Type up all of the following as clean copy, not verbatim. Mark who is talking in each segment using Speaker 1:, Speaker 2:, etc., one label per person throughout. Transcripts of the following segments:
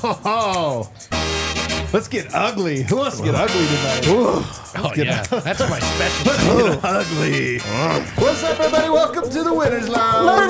Speaker 1: Oh, let's get ugly. Who wants to get ugly tonight?
Speaker 2: That's my special.
Speaker 1: Let's get ugly. What's up, everybody? Welcome to the Winners Lounge.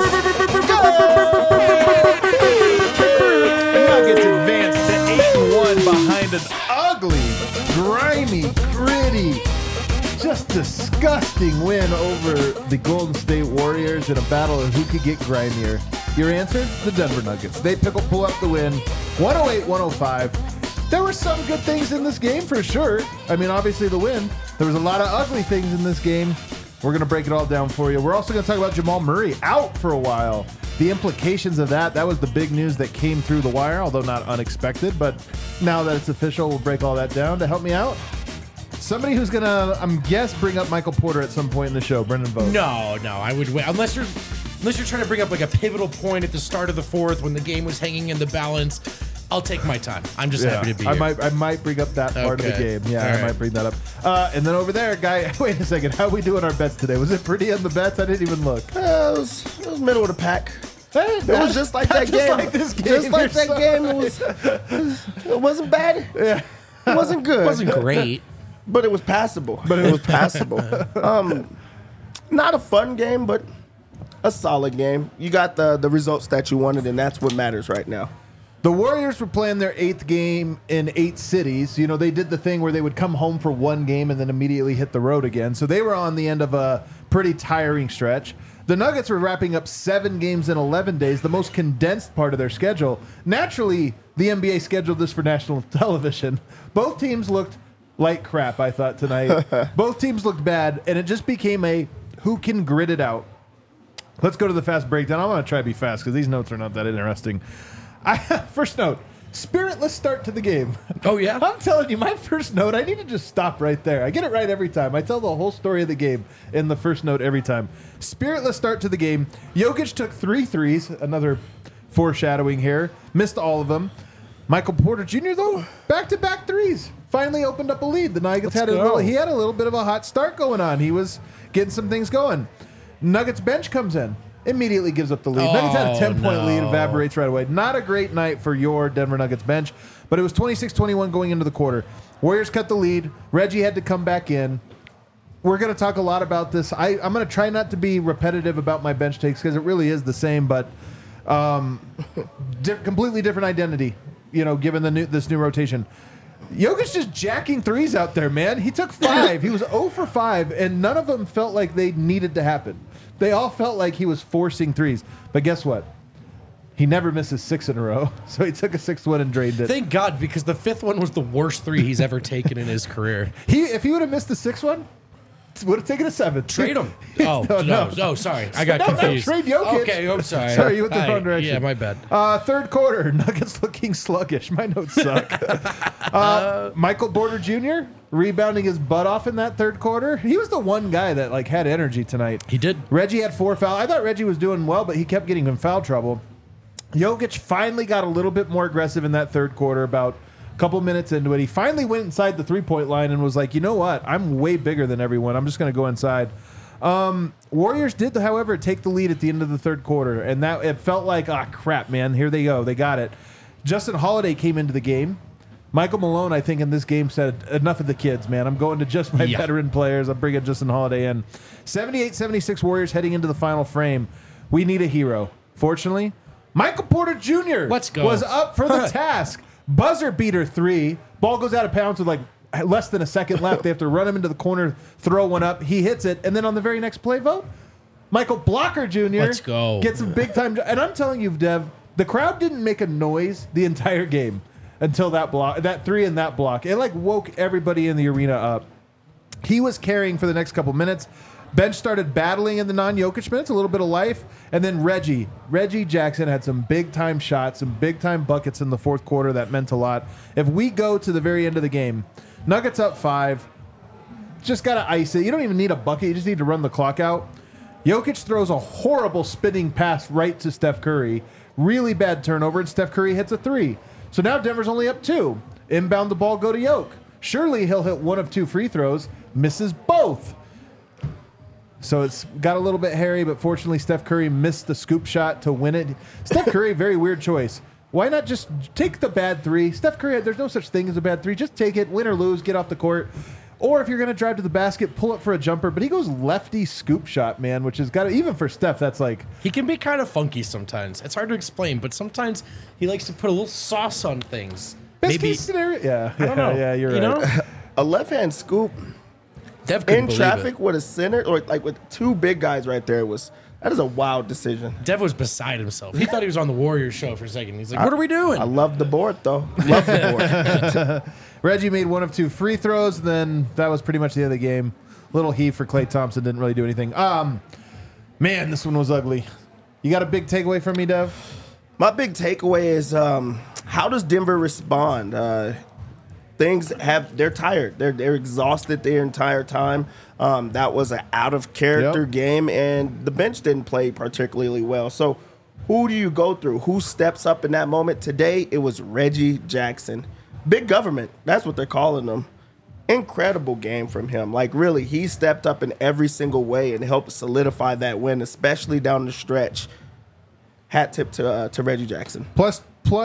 Speaker 1: Nuggets advance to 8-1 behind an ugly, grimy, gritty, just disgusting win over the Golden State Warriors in a battle of who could get grimier. Your answer? The Denver Nuggets. They pull up the win, 108-105. There were some good things in this game for sure. I mean, obviously the win. There was a lot of ugly things in this game. We're going to break it all down for you. We're also going to talk about Jamal Murray out for a while. The implications of that was the big news that came through the wire, although not unexpected. But now that it's official, we'll break all that down. To help me out, somebody who's going to, bring up Michael Porter at some point in the show. Brendan Vogt.
Speaker 2: No, I would wait. Unless you're trying to bring up like a pivotal point at the start of the fourth when the game was hanging in the balance. I'll take my time. I'm just happy to be here.
Speaker 1: I might bring up that part of the game. Yeah,
Speaker 2: All right.
Speaker 1: I might bring that up. And then over there, guy, wait a second. How we doing our bets today? Was it pretty on the bets? I didn't even look.
Speaker 3: It was middle of the pack.
Speaker 1: It
Speaker 3: was just like that game.
Speaker 1: Like this game.
Speaker 3: Just like that game. It wasn't bad.
Speaker 1: Yeah.
Speaker 3: It wasn't good.
Speaker 2: It wasn't great.
Speaker 3: But it was passable. Not a fun game, but a solid game. You got the results that you wanted, and that's what matters right now.
Speaker 1: The Warriors were playing their 8th game in 8 cities. You know, they did the thing where they would come home for one game and then immediately hit the road again. So they were on the end of a pretty tiring stretch. The Nuggets were wrapping up 7 games in 11 days, the most condensed part of their schedule. Naturally, the NBA scheduled this for national television. Both teams looked like crap, I thought, tonight. Both teams looked bad, and it just became a who can grit it out. Let's go to the fast breakdown. I'm going to try to be fast because these notes are not that interesting. First note, spiritless start to the game.
Speaker 2: Oh, yeah?
Speaker 1: I'm telling you, my first note, I need to just stop right there. I get it right every time. I tell the whole story of the game in the first note every time. Spiritless start to the game. Jokic took 3 threes, another foreshadowing here. Missed all of them. Michael Porter Jr., though, back-to-back threes. Finally opened up a lead. The Nuggets had a little bit of a hot start going on. He was getting some things going. Nuggets bench comes in. Immediately gives up the lead. Nuggets had a 10-point lead, evaporates right away. Not a great night for your Denver Nuggets bench, but it was 26-21 going into the quarter. Warriors cut the lead. Reggie had to come back in. We're going to talk a lot about this. I'm going to try not to be repetitive about my bench takes because it really is the same, but completely different identity, given this new rotation. Jokic just jacking threes out there, man. He took 5. He was 0 for 5, and none of them felt like they needed to happen. They all felt like he was forcing threes. But guess what? He never misses 6 in a row. So he took a 6th one and drained it.
Speaker 2: Thank God, because the 5th one was the worst 3 he's ever taken in his career.
Speaker 1: If he would have missed the 6th one, would have taken a 7th.
Speaker 2: Trade him. Oh, sorry. I got confused.
Speaker 1: No, trade Jokic.
Speaker 2: Okay, I'm sorry.
Speaker 1: Sorry, you went the wrong direction.
Speaker 2: Yeah, my bad.
Speaker 1: Third quarter, Nuggets looking sluggish. My notes suck. Michael Porter Jr. rebounding his butt off in that third quarter. He was the one guy that had energy tonight.
Speaker 2: He did.
Speaker 1: Reggie had 4 fouls. I thought Reggie was doing well, but he kept getting in foul trouble. Jokic finally got a little bit more aggressive in that third quarter, about a couple minutes into it. He finally went inside the 3-point line and was like, you know what? I'm way bigger than everyone. I'm just going to go inside. Warriors did, however, take the lead at the end of the third quarter, and that it felt like, crap, man, here they go. They got it. Justin Holiday came into the game. Michael Malone, I think, in this game said, enough of the kids, man. I'm going to just my veteran players. I'm bringing Justin Holiday in. 78-76 Warriors heading into the final frame. We need a hero. Fortunately, Michael Porter Jr. was up for the task. Buzzer beater 3. Ball goes out of bounds with less than a second left. They have to run him into the corner, throw one up. He hits it. And then on the very next play, Michael Blocker Jr. gets a big time. And I'm telling you, Dev, the crowd didn't make a noise the entire game until that 3 and that block. It woke everybody in the arena up. He was carrying for the next couple minutes. Bench started battling in the non-Jokic minutes, a little bit of life. And then Reggie Jackson had some big-time shots, some big-time buckets in the fourth quarter. That meant a lot. If we go to the very end of the game, Nuggets up 5, just got to ice it. You don't even need a bucket. You just need to run the clock out. Jokic throws a horrible spinning pass right to Steph Curry. Really bad turnover, and Steph Curry hits a 3. So now Denver's only up 2. Inbound the ball, go to Jokic. Surely he'll hit one of 2 free throws. Misses both. So it's got a little bit hairy, but fortunately Steph Curry missed the scoop shot to win it. Steph Curry, very weird choice. Why not just take the bad three? Steph Curry, there's no such thing as a bad three. Just take it, win or lose, get off the court. Or if you're going to drive to the basket, pull it for a jumper. But he goes lefty scoop shot, man, which has got to, even for Steph, that's like.
Speaker 2: He can be kind of funky sometimes. It's hard to explain, but sometimes he likes to put a little sauce on things.
Speaker 1: Best case scenario? Yeah.
Speaker 2: I don't know.
Speaker 1: Yeah, you're right.
Speaker 2: Know?
Speaker 3: A left-hand scoop
Speaker 2: Dev couldn't
Speaker 3: in
Speaker 2: believe
Speaker 3: traffic
Speaker 2: it.
Speaker 3: with a center, or like with two big guys right there, that is a wild decision.
Speaker 2: Dev was beside himself. He thought he was on the Warriors show for a second. He's like, what are we doing?
Speaker 3: I love the board, though. Love the board.
Speaker 1: Reggie made 1 of 2 free throws, then that was pretty much the end of the game. Little heave for Klay Thompson, didn't really do anything. Man, this one was ugly. You got a big takeaway from me, Dev?
Speaker 3: My big takeaway is how does Denver respond? They're tired. They're exhausted their entire time. That was an out of character game, and the bench didn't play particularly well. So who do you go through? Who steps up in that moment? Today, it was Reggie Jackson. Big government. That's what they're calling him. Incredible game from him. Like, really, he stepped up in every single way and helped solidify that win, especially down the stretch. Hat tip to Reggie Jackson.
Speaker 1: Plus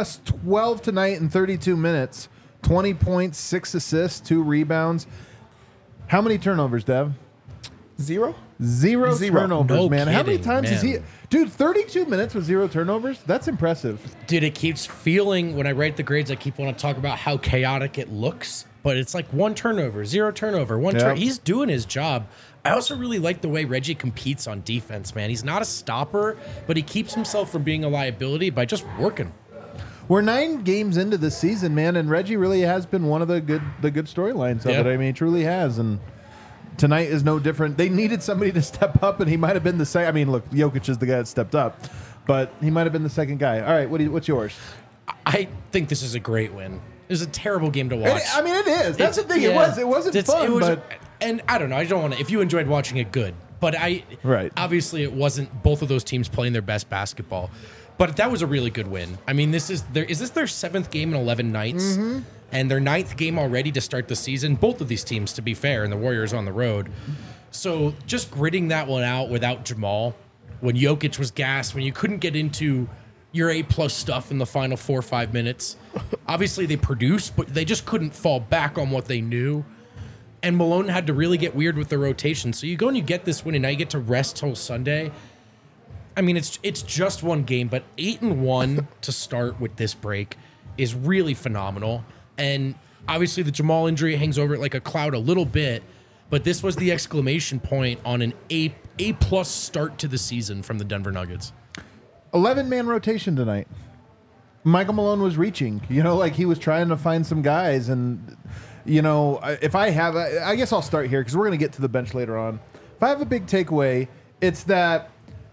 Speaker 1: 12 tonight in 32 minutes. 20 points, 6 assists, 2 rebounds. How many turnovers, Dev?
Speaker 3: Zero
Speaker 1: Turnovers,
Speaker 2: No
Speaker 1: man. How many
Speaker 2: kidding,
Speaker 1: times
Speaker 2: man.
Speaker 1: is he? Dude, 32 minutes with 0 turnovers? That's impressive.
Speaker 2: Dude, it keeps feeling, when I write the grades, I keep wanting to talk about how chaotic it looks. But it's like 1 turnover, 0 turnover, He's doing his job. I also really like the way Reggie competes on defense, man. He's not a stopper, but he keeps himself from being a liability by just working.
Speaker 1: We're 9 games into this season, man, and Reggie really has been one of the good storylines of it. I mean, he truly has, and tonight is no different. They needed somebody to step up, and he might have been the second. I mean, look, Jokic is the guy that stepped up, but he might have been the second guy. All right, what's yours?
Speaker 2: I think this is a great win. It was a terrible game to watch.
Speaker 1: I mean, it is. That's the thing.
Speaker 2: Yeah.
Speaker 1: It wasn't fun, but
Speaker 2: and I don't know. I don't want to. If you enjoyed watching it, good. But obviously, it wasn't both of those teams playing their best basketball. But that was a really good win. I mean, is this their 7th game in 11 nights? Mm-hmm. And their 9th game already to start the season. Both of these teams, to be fair, and the Warriors on the road. So just gritting that one out without Jamal, when Jokic was gassed, when you couldn't get into your A-plus stuff in the final 4 or 5 minutes. Obviously, they produced, but they just couldn't fall back on what they knew. And Malone had to really get weird with the rotation. So you go and you get this win, and now you get to rest till Sunday. I mean, it's just one game, but 8-1 to start with this break is really phenomenal. And obviously, the Jamal injury hangs over it like a cloud a little bit, but this was the exclamation point on an A-plus start to the season from the Denver Nuggets.
Speaker 1: 11-man rotation tonight. Michael Malone was reaching. Like he was trying to find some guys, and if I guess I'll start here because we're going to get to the bench later on. If I have a big takeaway, it's that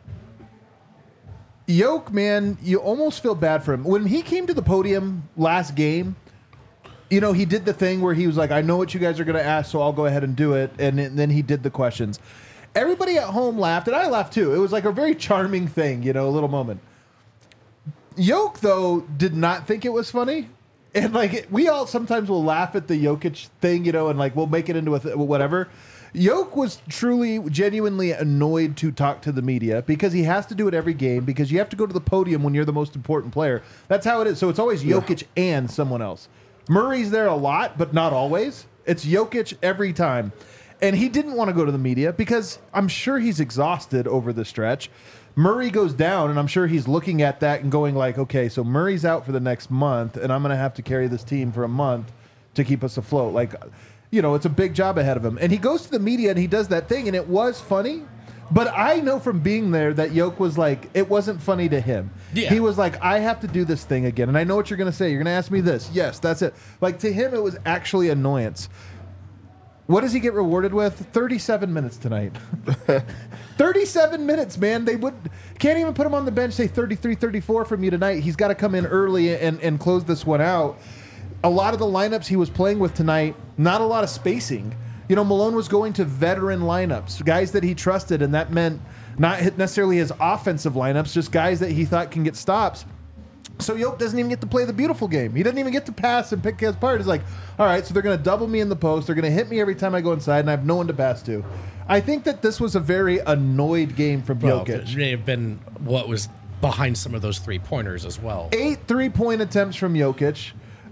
Speaker 1: Yoke, man, you almost feel bad for him. When he came to the podium last game, he did the thing where he was like, I know what you guys are going to ask, so I'll go ahead and do it. And then he did the questions. Everybody at home laughed, and I laughed too. It was like a very charming thing, a little moment. Yoke, though, did not think it was funny. And we all sometimes will laugh at the Jokic thing, and we'll make it into whatever. Yoke was truly, genuinely annoyed to talk to the media because he has to do it every game because you have to go to the podium when you're the most important player. That's how it is. So it's always Jokic and someone else. Murray's there a lot, but not always. It's Jokic every time. And he didn't want to go to the media because I'm sure he's exhausted over the stretch. Murray goes down, and I'm sure he's looking at that and going okay, so Murray's out for the next month, and I'm going to have to carry this team for a month to keep us afloat. It's a big job ahead of him. And he goes to the media, and he does that thing, and it was funny. But I know from being there that Yoke was it wasn't funny to him. Yeah. He was I have to do this thing again, and I know what you're going to say. You're going to ask me this. Yes, that's it. To him, it was actually annoyance. What does he get rewarded with? 37 minutes tonight. 37 minutes, man. They can't even put him on the bench, say 33, 34 from you tonight. He's got to come in early and close this one out. A lot of the lineups he was playing with tonight, not a lot of spacing. Malone was going to veteran lineups, guys that he trusted, and that meant not necessarily his offensive lineups, just guys that he thought can get stops. So Yoke doesn't even get to play the beautiful game. He doesn't even get to pass and pick his part. He's all right, so they're going to double me in the post. They're going to hit me every time I go inside, and I have no one to pass to. I think that this was a very annoyed game from Jokic.
Speaker 2: It may have been what was behind some of those 3-pointers as well.
Speaker 1: 8 3-point attempts from Jokic.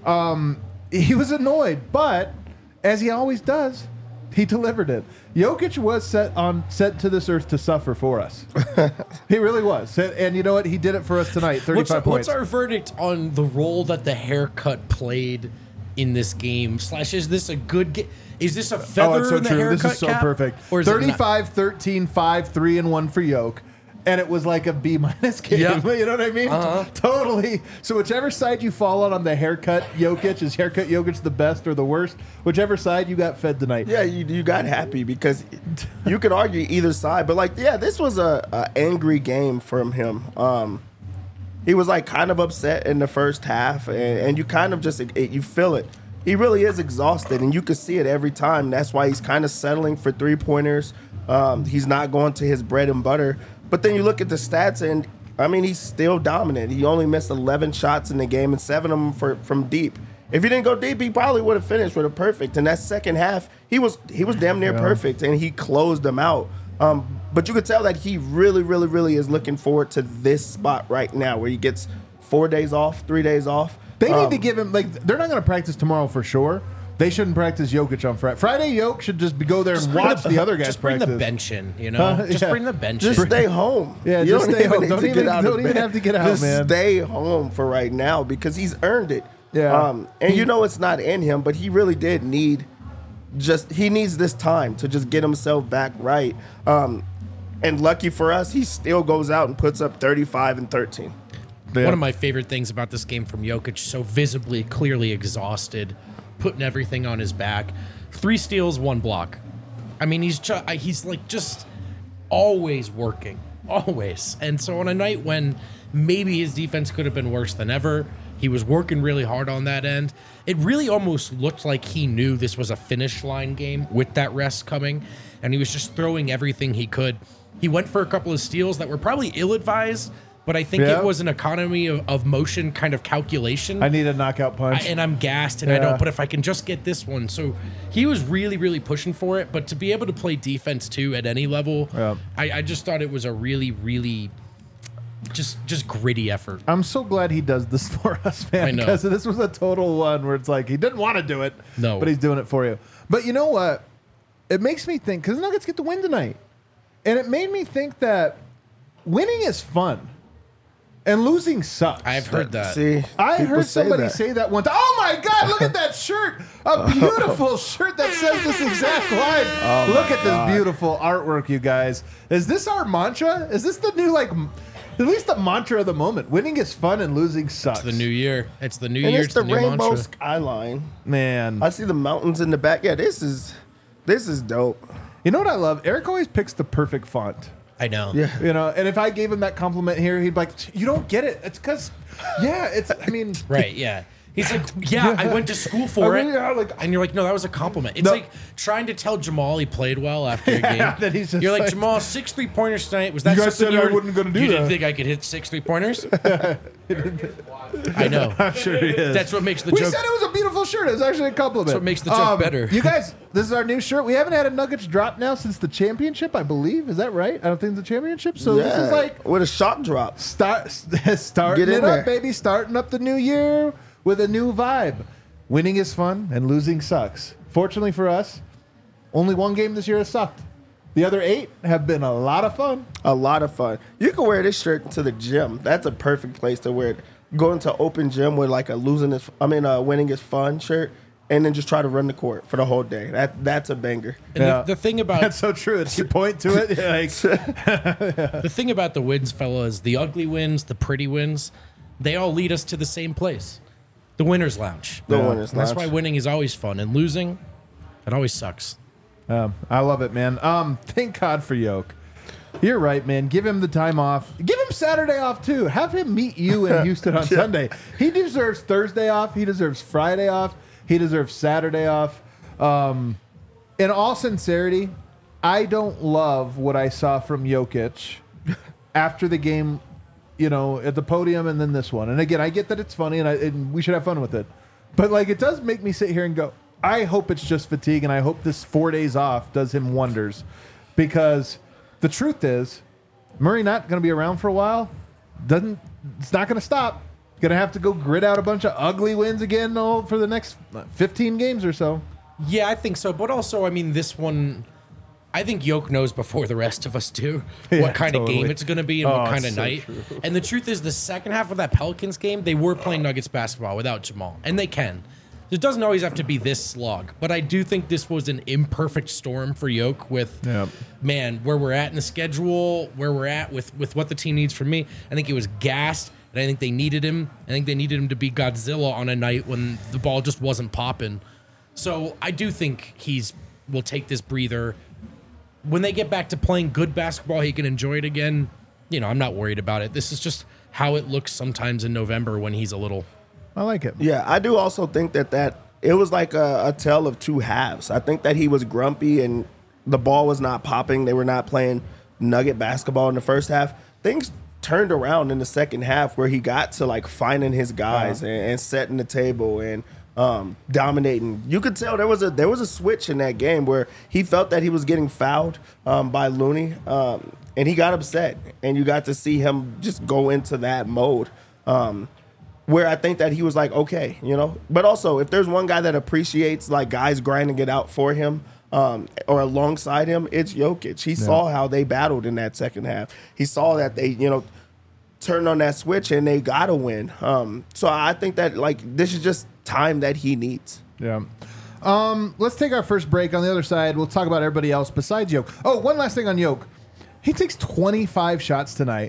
Speaker 1: He was annoyed, but as he always does, he delivered it. Jokic was sent to this earth to suffer for us. He really was. And you know what? He did it for us tonight, 35 points.
Speaker 2: What's our verdict on the role that the haircut played in this game? / is this a good game? Is this a feather
Speaker 1: it's so
Speaker 2: in the
Speaker 1: true.
Speaker 2: haircut
Speaker 1: This is so
Speaker 2: cap?
Speaker 1: perfect.
Speaker 2: Or is it
Speaker 1: 35, 13, 5, 3, and 1 for Yoke. And it was like a B- game.
Speaker 2: Yeah.
Speaker 1: You know what I mean? Totally. So whichever side you fall on the haircut Jokic, is haircut Jokic the best or the worst? Whichever side you got fed tonight.
Speaker 3: Yeah, you got happy because you could argue either side. But, this was a angry game from him. He was, kind of upset in the first half, and you kind of just you feel it. He really is exhausted, and you can see it every time. That's why he's kind of settling for 3-pointers. He's not going to his bread and butter. But then you look at the stats, and, he's still dominant. He only missed 11 shots in the game and 7 of them from deep. If he didn't go deep, he probably would have finished with a perfect. And that second half, he was damn near perfect, and he closed them out. But you could tell that he really, really, really is looking forward to this spot right now where he gets 4 days off, 3 days off.
Speaker 1: They need to give him, they're not going to practice tomorrow for sure. They shouldn't practice Jokic on Friday. Friday, Jokic should just go there and watch the other guys practice.
Speaker 2: Just bring the bench in, Just bring the bench in.
Speaker 3: Just stay home.
Speaker 1: Yeah,
Speaker 3: you
Speaker 1: just stay home. Don't even
Speaker 3: bed.
Speaker 1: have to get out,
Speaker 3: just
Speaker 1: man.
Speaker 3: Stay home for right now because he's earned it.
Speaker 1: Yeah.
Speaker 3: And it's not in him, but he really did need he needs this time to just get himself back right. And lucky for us, he still goes out and puts up 35 and 13.
Speaker 2: Yeah. One of my favorite things about this game from Jokic, so visibly, clearly exhausted, putting everything on his back. 3 steals, 1 block. He's just always working, always. And so on a night when maybe his defense could have been worse than ever, he was working really hard on that end. It really almost looked like he knew this was a finish line game with that rest coming, and he was just throwing everything he could. He went for a couple of steals that were probably ill-advised, but I think it was an economy of motion kind of calculation.
Speaker 1: I need a knockout punch.
Speaker 2: And I'm gassed, and I don't, but if I can just get this one. So he was really, really pushing for it, but to be able to play defense, too, at any level, I just thought it was a really, really just gritty effort.
Speaker 1: I'm so glad he does this for us, man.
Speaker 2: I know.
Speaker 1: Because this was a total one where it's like he didn't want to do it,
Speaker 2: no,
Speaker 1: but he's doing it for you. But you know what? It makes me think, because the Nuggets get the win tonight. And it made me think that winning is fun. And losing sucks.
Speaker 2: I've heard that.
Speaker 3: See,
Speaker 1: I heard somebody say that once. Oh my God, look at that shirt. A beautiful shirt that says this exact line. Look at this beautiful artwork, you guys. Is this our mantra? Is this the new, at least the mantra of the moment? Winning is fun and losing sucks.
Speaker 2: It's the new year. It's the new
Speaker 3: and
Speaker 2: year.
Speaker 3: It's the
Speaker 2: new
Speaker 3: rainbow
Speaker 2: mantra.
Speaker 3: skyline.
Speaker 1: Man.
Speaker 3: I see the mountains in the back. Yeah, this is dope.
Speaker 1: You know what I love? Eric always picks the perfect font.
Speaker 2: I know.
Speaker 3: Yeah.
Speaker 1: And if I gave him that compliment here, he'd be like, you don't get it. It's because,
Speaker 2: Right, yeah. He's like, I went to school for it.
Speaker 1: Yeah,
Speaker 2: and you're like, no, that was a compliment. It's like trying to tell Jamal he played well after a game.
Speaker 1: Then he's just
Speaker 2: you're like, Jamal, 6 3-pointers tonight. Was that
Speaker 1: you guys
Speaker 2: something
Speaker 1: said
Speaker 2: you
Speaker 1: I wasn't going to do
Speaker 2: you
Speaker 1: that.
Speaker 2: didn't think I could hit 6 3-pointers? I know.
Speaker 1: I'm sure he is.
Speaker 2: That's what makes the
Speaker 1: we
Speaker 2: joke.
Speaker 1: said it was a beautiful shirt. It was actually a compliment.
Speaker 2: That's what makes the joke better.
Speaker 1: You guys, this is our new shirt. We haven't had a Nuggets drop now since the championship, I believe. Is that right? I don't think it's the championship. So this is like
Speaker 3: with a shot drop.
Speaker 1: Starting it up, baby. Starting up the new year with a new vibe. Winning is fun and losing sucks. Fortunately for us, only one game this year has sucked. The other 8 have been a lot of fun.
Speaker 3: A lot of fun. You can wear this shirt to the gym. That's a perfect place to wear it. Go into open gym with like a winning is fun shirt, and then just try to run the court for the whole day. That's a banger.
Speaker 2: And the thing about
Speaker 1: that's so true. It's you point to it.
Speaker 2: The thing about the wins, fellas, the ugly wins, the pretty wins, they all lead us to the same place. The winner's lounge.
Speaker 3: The winner's lounge.
Speaker 2: That's why winning is always fun, and losing, it always sucks.
Speaker 1: I love it, man. Thank God for Yoke. You're right, man. Give him the time off. Give him Saturday off, too. Have him meet you in Houston on Sunday. He deserves Thursday off. He deserves Friday off. He deserves Saturday off. In all sincerity, I don't love what I saw from Jokic after the game, at the podium and then this one. And again, I get that it's funny and we should have fun with it. But, it does make me sit here and go, I hope it's just fatigue, and I hope this 4 days off does him wonders. Because the truth is, Murray not going to be around for a while. It's not going to stop. Going to have to go grit out a bunch of ugly wins again for the next 15 games or so.
Speaker 2: Yeah, I think so. But also, I mean, this one, I think Yoke knows before the rest of us do what kind of game it's going to be and what kind of night. True. And the truth is, the second half of that Pelicans game, they were playing Nuggets basketball without Jamal. And they can. It doesn't always have to be this slog. But I do think this was an imperfect storm for Yoke with, man, where we're at in the schedule, where we're at with what the team needs from me. I think he was gassed. And I think they needed him. I think they needed him to be Godzilla on a night when the ball just wasn't popping. So I do think will take this breather. When they get back to playing good basketball, he can enjoy it again. You know, I'm not worried about it. This is just how it looks sometimes in November when he's a little.
Speaker 1: I like it.
Speaker 3: Yeah, I do also think that it was like a tale of two halves. I think that he was grumpy and the ball was not popping. They were not playing Nugget basketball in the first half. Things turned around in the second half where he got to like finding his guys and setting the table and dominating. You could tell there was a switch in that game where he felt that he was getting fouled by Looney and he got upset, and you got to see him just go into that mode where I think that he was like, okay, you know. But also, if there's one guy that appreciates like guys grinding it out for him or alongside him, it's Jokic. He saw how they battled in that second half. He saw that they, you know, turned on that switch and they got to win. So I think that like this is just time that he needs.
Speaker 1: Yeah. Let's take our first break. On the other side, we'll talk about everybody else besides Yoke. Oh, one last thing on Yoke. He takes 25 shots tonight.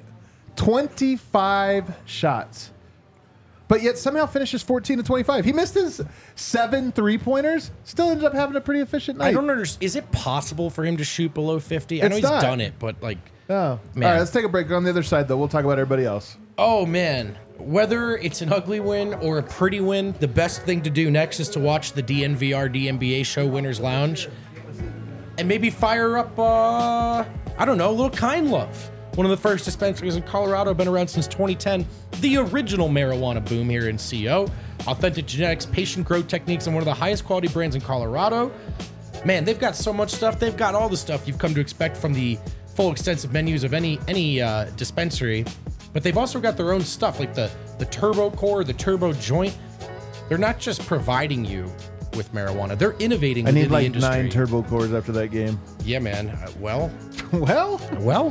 Speaker 1: 25 shots. But yet somehow finishes 14 to 25. He missed his 7 3-pointers. Still ended up having a pretty efficient night.
Speaker 2: I don't understand. Is it possible for him to shoot below 50? I know he's done it, but like...
Speaker 1: Oh. Man. All right, let's take a break. On the other side, though, we'll talk about everybody else.
Speaker 2: Oh, man. Whether it's an ugly win or a pretty win, the best thing to do next is to watch the DNVR DNBA show Winners Lounge and maybe fire up, a little Kind Love. One of the first dispensaries in Colorado, been around since 2010. The original marijuana boom here in CO. Authentic genetics, patient growth techniques, and one of the highest quality brands in Colorado. Man, they've got so much stuff. They've got all the stuff you've come to expect from the full extensive menus of any dispensary. But they've also got their own stuff, like the Turbo Core, the Turbo Joint. They're not just providing you with marijuana. They're innovating within the industry.
Speaker 1: I need like 9 Turbo Cores after that game.
Speaker 2: Yeah, man. Well.
Speaker 1: Well?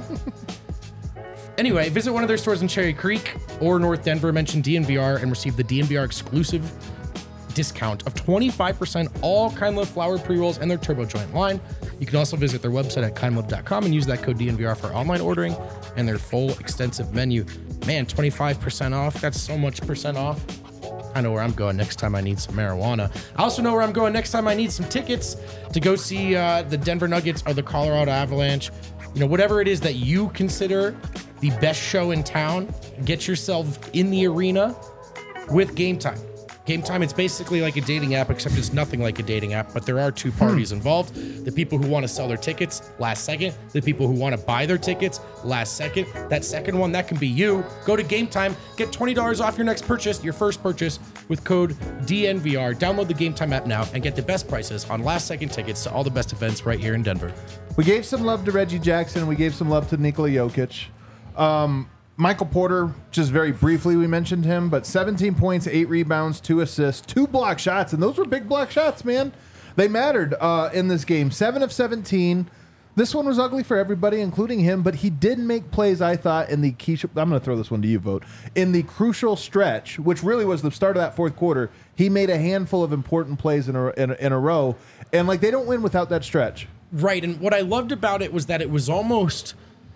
Speaker 2: Anyway, visit one of their stores in Cherry Creek or North Denver, mention DNVR, and receive the DNVR exclusive discount of 25% all Kind Love flower pre-rolls and their Turbo Joint line. You can also visit their website at kindlove.com and use that code DNVR for online ordering and their full extensive menu. Man, 25% off. That's so much percent off. I know where I'm going next time I need some marijuana. I also know where I'm going next time I need some tickets to go see the Denver Nuggets or the Colorado Avalanche. You know, whatever it is that you consider the best show in town, get yourself in the arena with Game Time. Game Time, it's basically like a dating app, except it's nothing like a dating app, but there are two parties involved. The people who want to sell their tickets last second, the people who want to buy their tickets last second. That second one, that can be you. Go to Game Time, get $20 off your next purchase, your first purchase, with code DNVR. Download the Game Time app now and get the best prices on last second tickets to all the best events right here in Denver.
Speaker 1: We gave some love to Reggie Jackson, and we gave some love to Nikola Jokic. Michael Porter, just very briefly, we mentioned him, but 17 points, 8 rebounds, 2 assists, 2 block shots, and those were big block shots, man. They mattered in this game. 7 of 17. This one was ugly for everybody, including him, but he did make plays, I thought, in the key... I'm going to throw this one to you, Vote. In the crucial stretch, which really was the start of that fourth quarter, he made a handful of important plays in a row, and like they don't win without that stretch.
Speaker 2: Right, and what I loved about it was that it was almost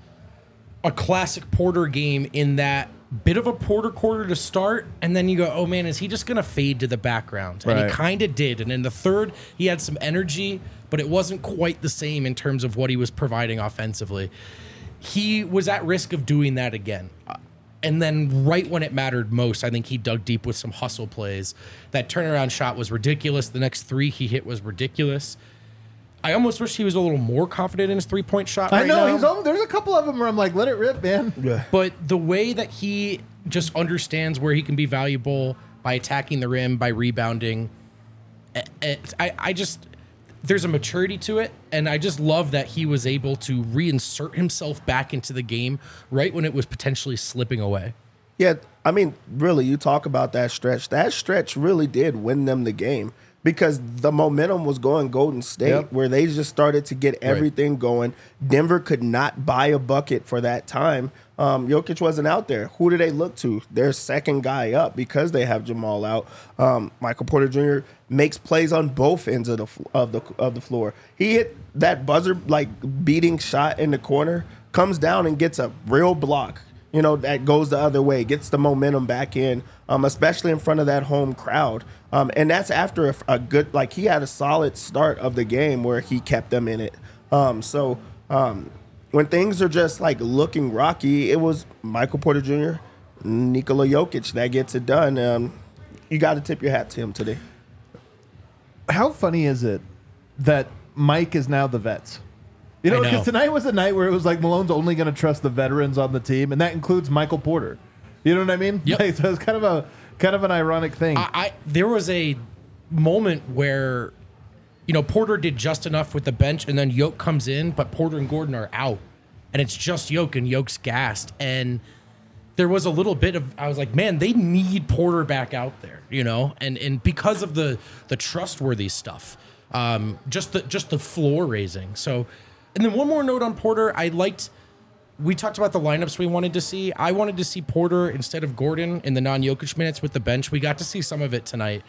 Speaker 2: a classic Porter game in that bit of a Porter quarter to start, and then you go, oh man, is he just going to fade to the background? And he kind of did. And in the third, he had some energy, but it wasn't quite the same in terms of what he was providing offensively. He was at risk of doing that again. And then right when it mattered most, I think he dug deep with some hustle plays. That turnaround shot was ridiculous. The next 3 he hit was ridiculous. I almost wish he was a little more confident in his three-point shot right now.
Speaker 1: I know. There's a couple of them where I'm like, let it rip, man.
Speaker 3: Yeah.
Speaker 2: But the way that he just understands where he can be valuable by attacking the rim, by rebounding, there's a maturity to it, and I just love that he was able to reinsert himself back into the game right when it was potentially slipping away.
Speaker 3: Yeah, I mean, really, you talk about that stretch. That stretch really did win them the game because the momentum was going Golden State, where they just started to get everything going. Denver could not buy a bucket for that time. Jokic wasn't out there. Who do they look to? Their second guy up because they have Jamal out. Michael Porter Jr. makes plays on both ends of the floor. He hit that buzzer beating shot in the corner, comes down and gets a real block. That goes the other way, gets the momentum back in, especially in front of that home crowd. And that's after a good, he had a solid start of the game where he kept them in it. When things are just looking rocky, it was Michael Porter Jr., Nikola Jokic that gets it done. You got to tip your hat to him today.
Speaker 1: How funny is it that Mike is now the vets? Because tonight was a night where it was Malone's only going to trust the veterans on the team, and that includes Michael Porter. You know what I mean?
Speaker 2: Yep.
Speaker 1: So it's kind of an ironic thing.
Speaker 2: There was a moment where, Porter did just enough with the bench, and then Yoke comes in, but Porter and Gordon are out, and it's just Yoke, and Yoke's gassed. And there was a little bit of, I was like, man, they need Porter back out there, and because of the trustworthy stuff, just the floor raising. So. And then one more note on Porter. We talked about the lineups we wanted to see. I wanted to see Porter instead of Gordon in the non-Jokic minutes with the bench. We got to see some of it tonight.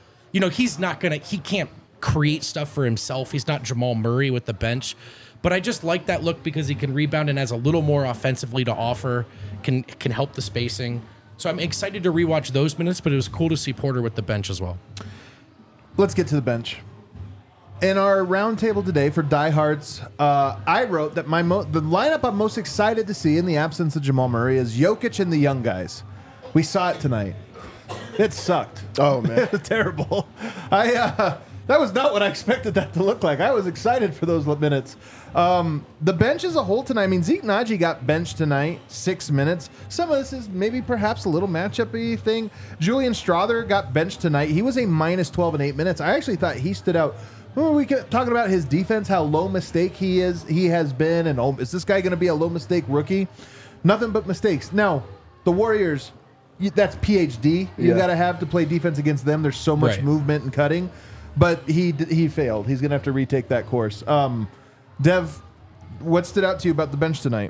Speaker 2: He can't create stuff for himself. He's not Jamal Murray with the bench. But I just like that look because he can rebound and has a little more offensively to offer, can help the spacing. So I'm excited to rewatch those minutes, but it was cool to see Porter with the bench as well.
Speaker 1: Let's get to the bench. In our roundtable today for diehards, I wrote that the lineup I'm most excited to see in the absence of Jamal Murray is Jokic and the young guys. We saw it tonight. It sucked.
Speaker 3: Oh, man.
Speaker 1: It was terrible. That was not what I expected that to look like. I was excited for those minutes. The bench as a whole tonight, I mean, Zeke Naji got benched tonight, 6 minutes. Some of this is maybe perhaps a little matchup-y thing. Julian Strother got benched tonight. He was a minus 12 in 8 minutes. I actually thought he stood out. We talking about his defense, how low mistake he has been, and is this guy going to be a low mistake rookie? Nothing but mistakes. Now, the Warriors, that's PhD. You got to have to play defense against them. There's so much movement and cutting, but he failed. He's going to have to retake that course. Dev, what stood out to you about the bench tonight?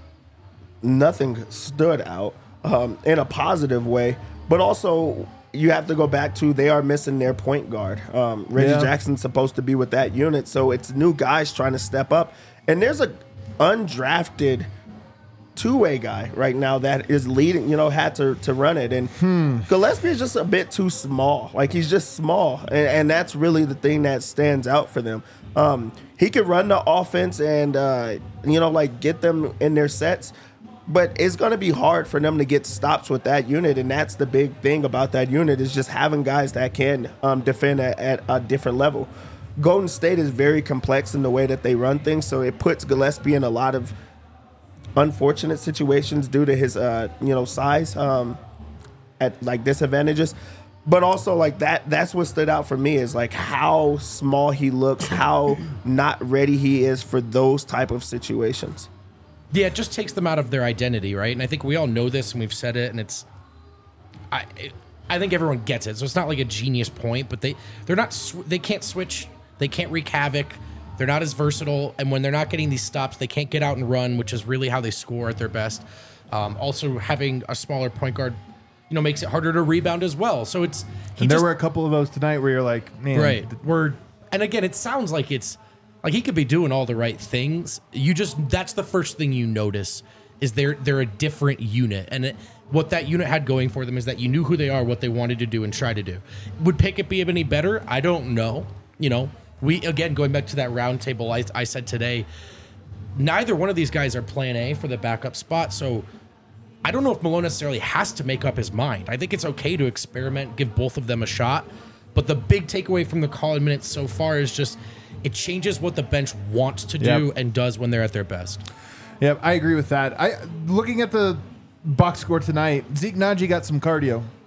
Speaker 3: Nothing stood out in a positive way, but also. You have to go back to they are missing their point guard. Reggie Jackson's supposed to be with that unit, so it's new guys trying to step up. And there's a undrafted two-way guy right now that is leading, had to run it. And Gillespie is just a bit too small. He's just small, and that's really the thing that stands out for them. He could run the offense and, get them in their sets. But it's going to be hard for them to get stops with that unit, and that's the big thing about that unit is just having guys that can defend at a different level. Golden State is very complex in the way that they run things, so it puts Gillespie in a lot of unfortunate situations due to his size at disadvantages. But also that's what stood out for me is how small he looks, how not ready he is for those type of situations.
Speaker 2: Yeah, it just takes them out of their identity, right? And I think we all know this, and we've said it, and I think everyone gets it. So it's not like a genius point, but they're not they can't switch, they can't wreak havoc, they're not as versatile, and when they're not getting these stops, they can't get out and run, which is really how they score at their best. Also, having a smaller point guard, makes it harder to rebound as well. So
Speaker 1: there were a couple of those tonight where you're like, man,
Speaker 2: right? And again, it sounds like it's. He could be doing all the right things. That's the first thing you notice is they're a different unit. And what that unit had going for them is that you knew who they are, what they wanted to do and try to do. Would Pickett be any better? I don't know. We, again, going back to that round table, I said today, neither one of these guys are plan A for the backup spot. So I don't know if Malone necessarily has to make up his mind. I think it's okay to experiment, give both of them a shot. But the big takeaway from the call-in minutes so far is just it changes what the bench wants to do and does when they're at their best.
Speaker 1: Yeah, I agree with that. Looking at the box score tonight, Zeke Naji got some cardio.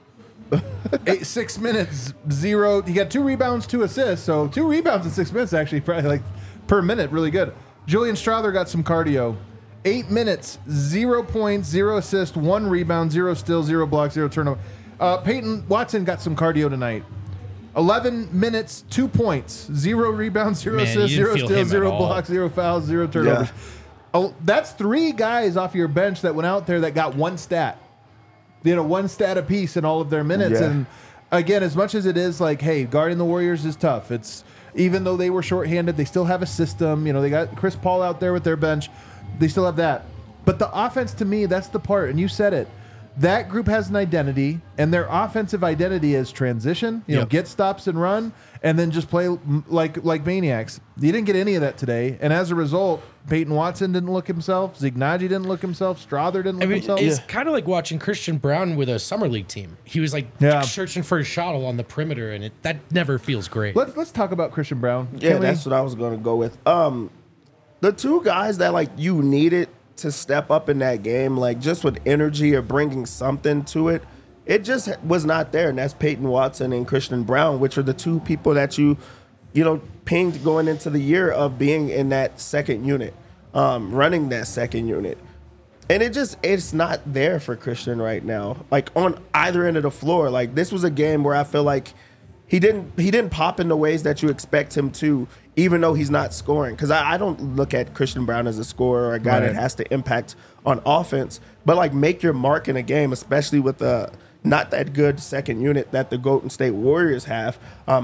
Speaker 1: 6 minutes, 0. He got 2 rebounds, 2 assists. So 2 rebounds in 6 minutes, actually, probably like per minute, really good. Julian Strawther got some cardio. 8 minutes, 0 points, 0 assists, 1 rebound, 0 steals, 0 blocks, 0 turnover. Peyton Watson got some cardio tonight. 11 minutes, 2 points, 0 rebounds, 0 assists, 0 steals, 0 blocks, 0 fouls, 0 turnovers. Yeah. Oh, that's 3 guys off your bench that went out there that got 1 stat. 1 stat apiece in all of their minutes. Yeah. And again, as much as it is like, hey, guarding the Warriors is tough. It's even though they were shorthanded, they still have a system. They got Chris Paul out there with their bench. They still have that. But the offense, to me, that's the part. And you said it. That group has an identity, and their offensive identity is transition. Get stops and run, and then just play like maniacs. You didn't get any of that today, and as a result, Peyton Watson didn't look himself. Zignagi didn't look himself. Strawther didn't look himself.
Speaker 2: It's kind of like watching Christian Brown with a summer league team. He was searching for a shot along the perimeter, and that never feels great.
Speaker 1: Let's talk about Christian Brown.
Speaker 3: Yeah, that's what I was going to go with. The 2 guys that you needed to step up in that game, just with energy or bringing something to it, it just was not there. And that's Peyton Watson and Christian Brown, which are the 2 people that you pinged going into the year of being in that second unit, running that second unit. And it's not there for Christian right now, on either end of the floor. This was a game where I feel like he didn't pop in the ways that you expect him to, even though he's not scoring. Because I don't look at Christian Brown as a scorer or a guy that has to impact on offense. But make your mark in a game, especially with the not that good second unit that the Golden State Warriors have.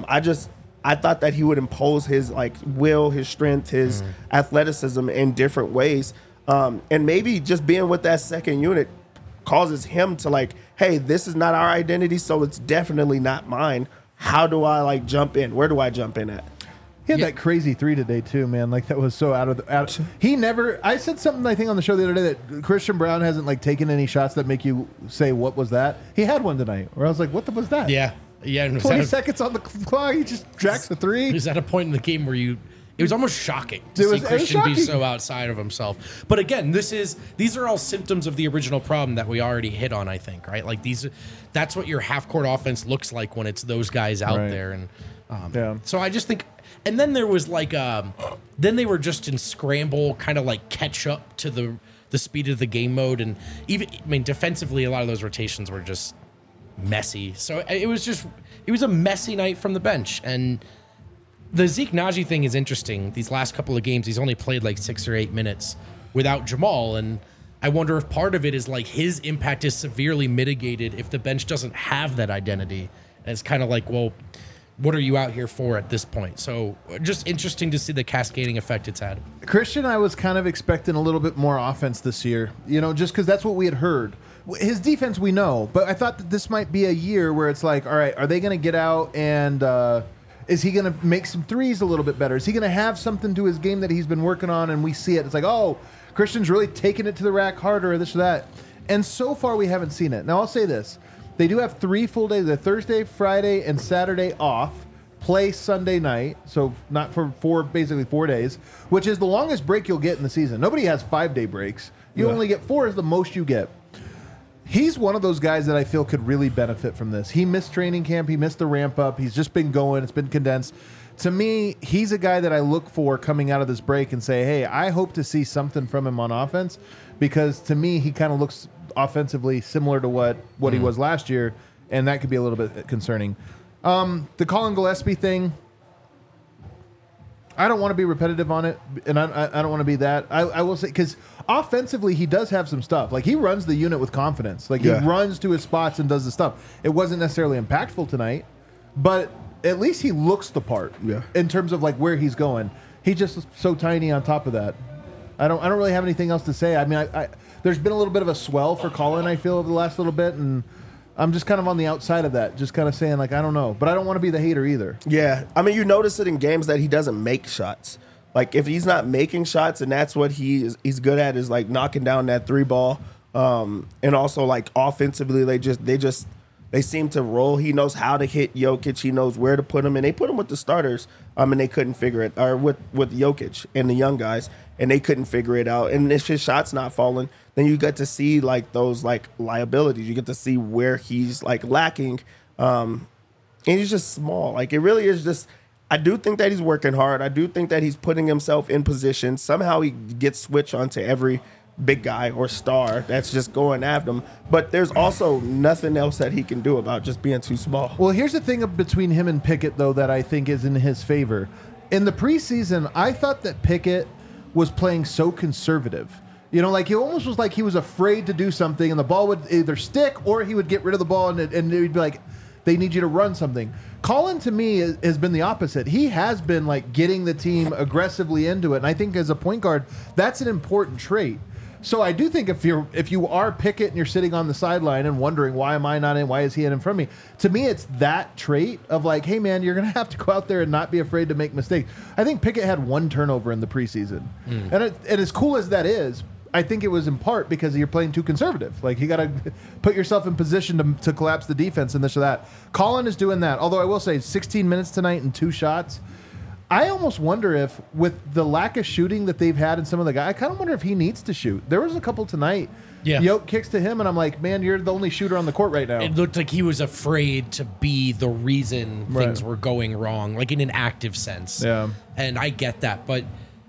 Speaker 3: I thought that he would impose his will, his strength, his athleticism in different ways. And maybe just being with that second unit causes him to hey, this is not our identity, so it's definitely not mine. How do I jump in? Where do I jump in at?
Speaker 1: He had that crazy 3 today too, man. That was so out of the. He never. I said something I think on the show the other day that Christian Brown hasn't taken any shots that make you say what was that. He had one tonight where I was like, what was that?
Speaker 2: Yeah.
Speaker 1: 20 seconds on the clock. He just jacks a 3.
Speaker 2: He was at a point in the game where it was almost shocking to see Christian be so outside of himself. But again, these are all symptoms of the original problem that we already hit on, I think, right? That's what your half-court offense looks like when it's those guys out there. And so I just think, and then there was then they were just in scramble, kind of catch up to the speed of the game mode. And even, defensively, a lot of those rotations were just messy. So it was a messy night from the bench. And the Zeke Naji thing is interesting. These last couple of games, he's only played 6 or 8 minutes without Jamal. And I wonder if part of it is his impact is severely mitigated if the bench doesn't have that identity. And it's kind of well, what are you out here for at this point? So just interesting to see the cascading effect it's had.
Speaker 1: Christian, I was kind of expecting a little bit more offense this year, just because that's what we had heard. His defense, we know, but I thought that this might be a year where it's all right, are they going to get out and is he going to make some threes a little bit better? Is he going to have something to his game that he's been working on and we see it? It's oh, Christian's really taking it to the rack harder, or this or that. And so far, we haven't seen it. Now, I'll say this. They do have 3 full days, the Thursday, Friday, and Saturday off, play Sunday night, so not for basically 4 days, which is the longest break you'll get in the season. Nobody has 5-day breaks. You only get 4 is the most you get. He's one of those guys that I feel could really benefit from this. He missed training camp. He missed the ramp up. He's just been going. It's been condensed. To me, he's a guy that I look for coming out of this break and say, hey, I hope to see something from him on offense, because to me, he kind of looks offensively similar to what he was last year, and that could be a little bit concerning. The Colin Gillespie thing, I don't want to be repetitive on it, and I don't want to be that. I will say, because offensively, he does have some stuff. He runs the unit with confidence. He runs to his spots and does the stuff. It wasn't necessarily impactful tonight, but at least he looks the part in terms of where he's going. He's just so tiny on top of that. I don't really have anything else to say. I mean, there's been a little bit of a swell for Colin, I feel, over the last little bit, and I'm just kind of on the outside of that, just kind of saying, I don't know. But I don't want to be the hater either.
Speaker 3: Yeah. I mean, you notice it in games that he doesn't make shots. If he's not making shots, and that's what he's good at, is, knocking down that 3 ball. And also, offensively, they just They seem to roll. He knows how to hit Jokic. He knows where to put him, and they put him with the starters. And they couldn't figure it, or with Jokic and the young guys, and they couldn't figure it out. And if his shot's not falling, then you get to see like those like liabilities. You get to see where he's like lacking, and he's just small. Like it really is just. I do think that he's working hard. I do think that he's putting himself in position. Somehow he gets switched onto every big guy or star that's just going after him. But there's also nothing else that he can do about just being too small.
Speaker 1: Well, here's the thing between him and Pickett, though, that I think is in his favor. In the preseason, I thought that Pickett was playing so conservative. You know, like he almost was like he was afraid to do something, and the ball would either stick or he would get rid of the ball, and it would be like, they need you to run something. Colin, to me, has been the opposite. He has been like getting the team aggressively into it, and I think as a point guard, that's an important trait. So I do think if you are Pickett and you're sitting on the sideline and wondering why am I not in, why is he in front of me? To me, it's that trait of like, hey man, you're gonna have to go out there and not be afraid to make mistakes. I think Pickett had 1 turnover in the preseason, and as cool as that is, I think it was in part because you're playing too conservative. Like you got to put yourself in position to collapse the defense and this or that. Colin is doing that. Although I will say 16 minutes tonight and 2 shots. I almost wonder if, with the lack of shooting that they've had in some of the guys, I kind of wonder if he needs to shoot. There was a couple tonight. Yeah. Yoke kicks to him, and I'm like, man, you're the only shooter on the court right now.
Speaker 2: It looked like he was afraid to be the reason things were going wrong, like in an active sense.
Speaker 1: Yeah.
Speaker 2: And I get that, but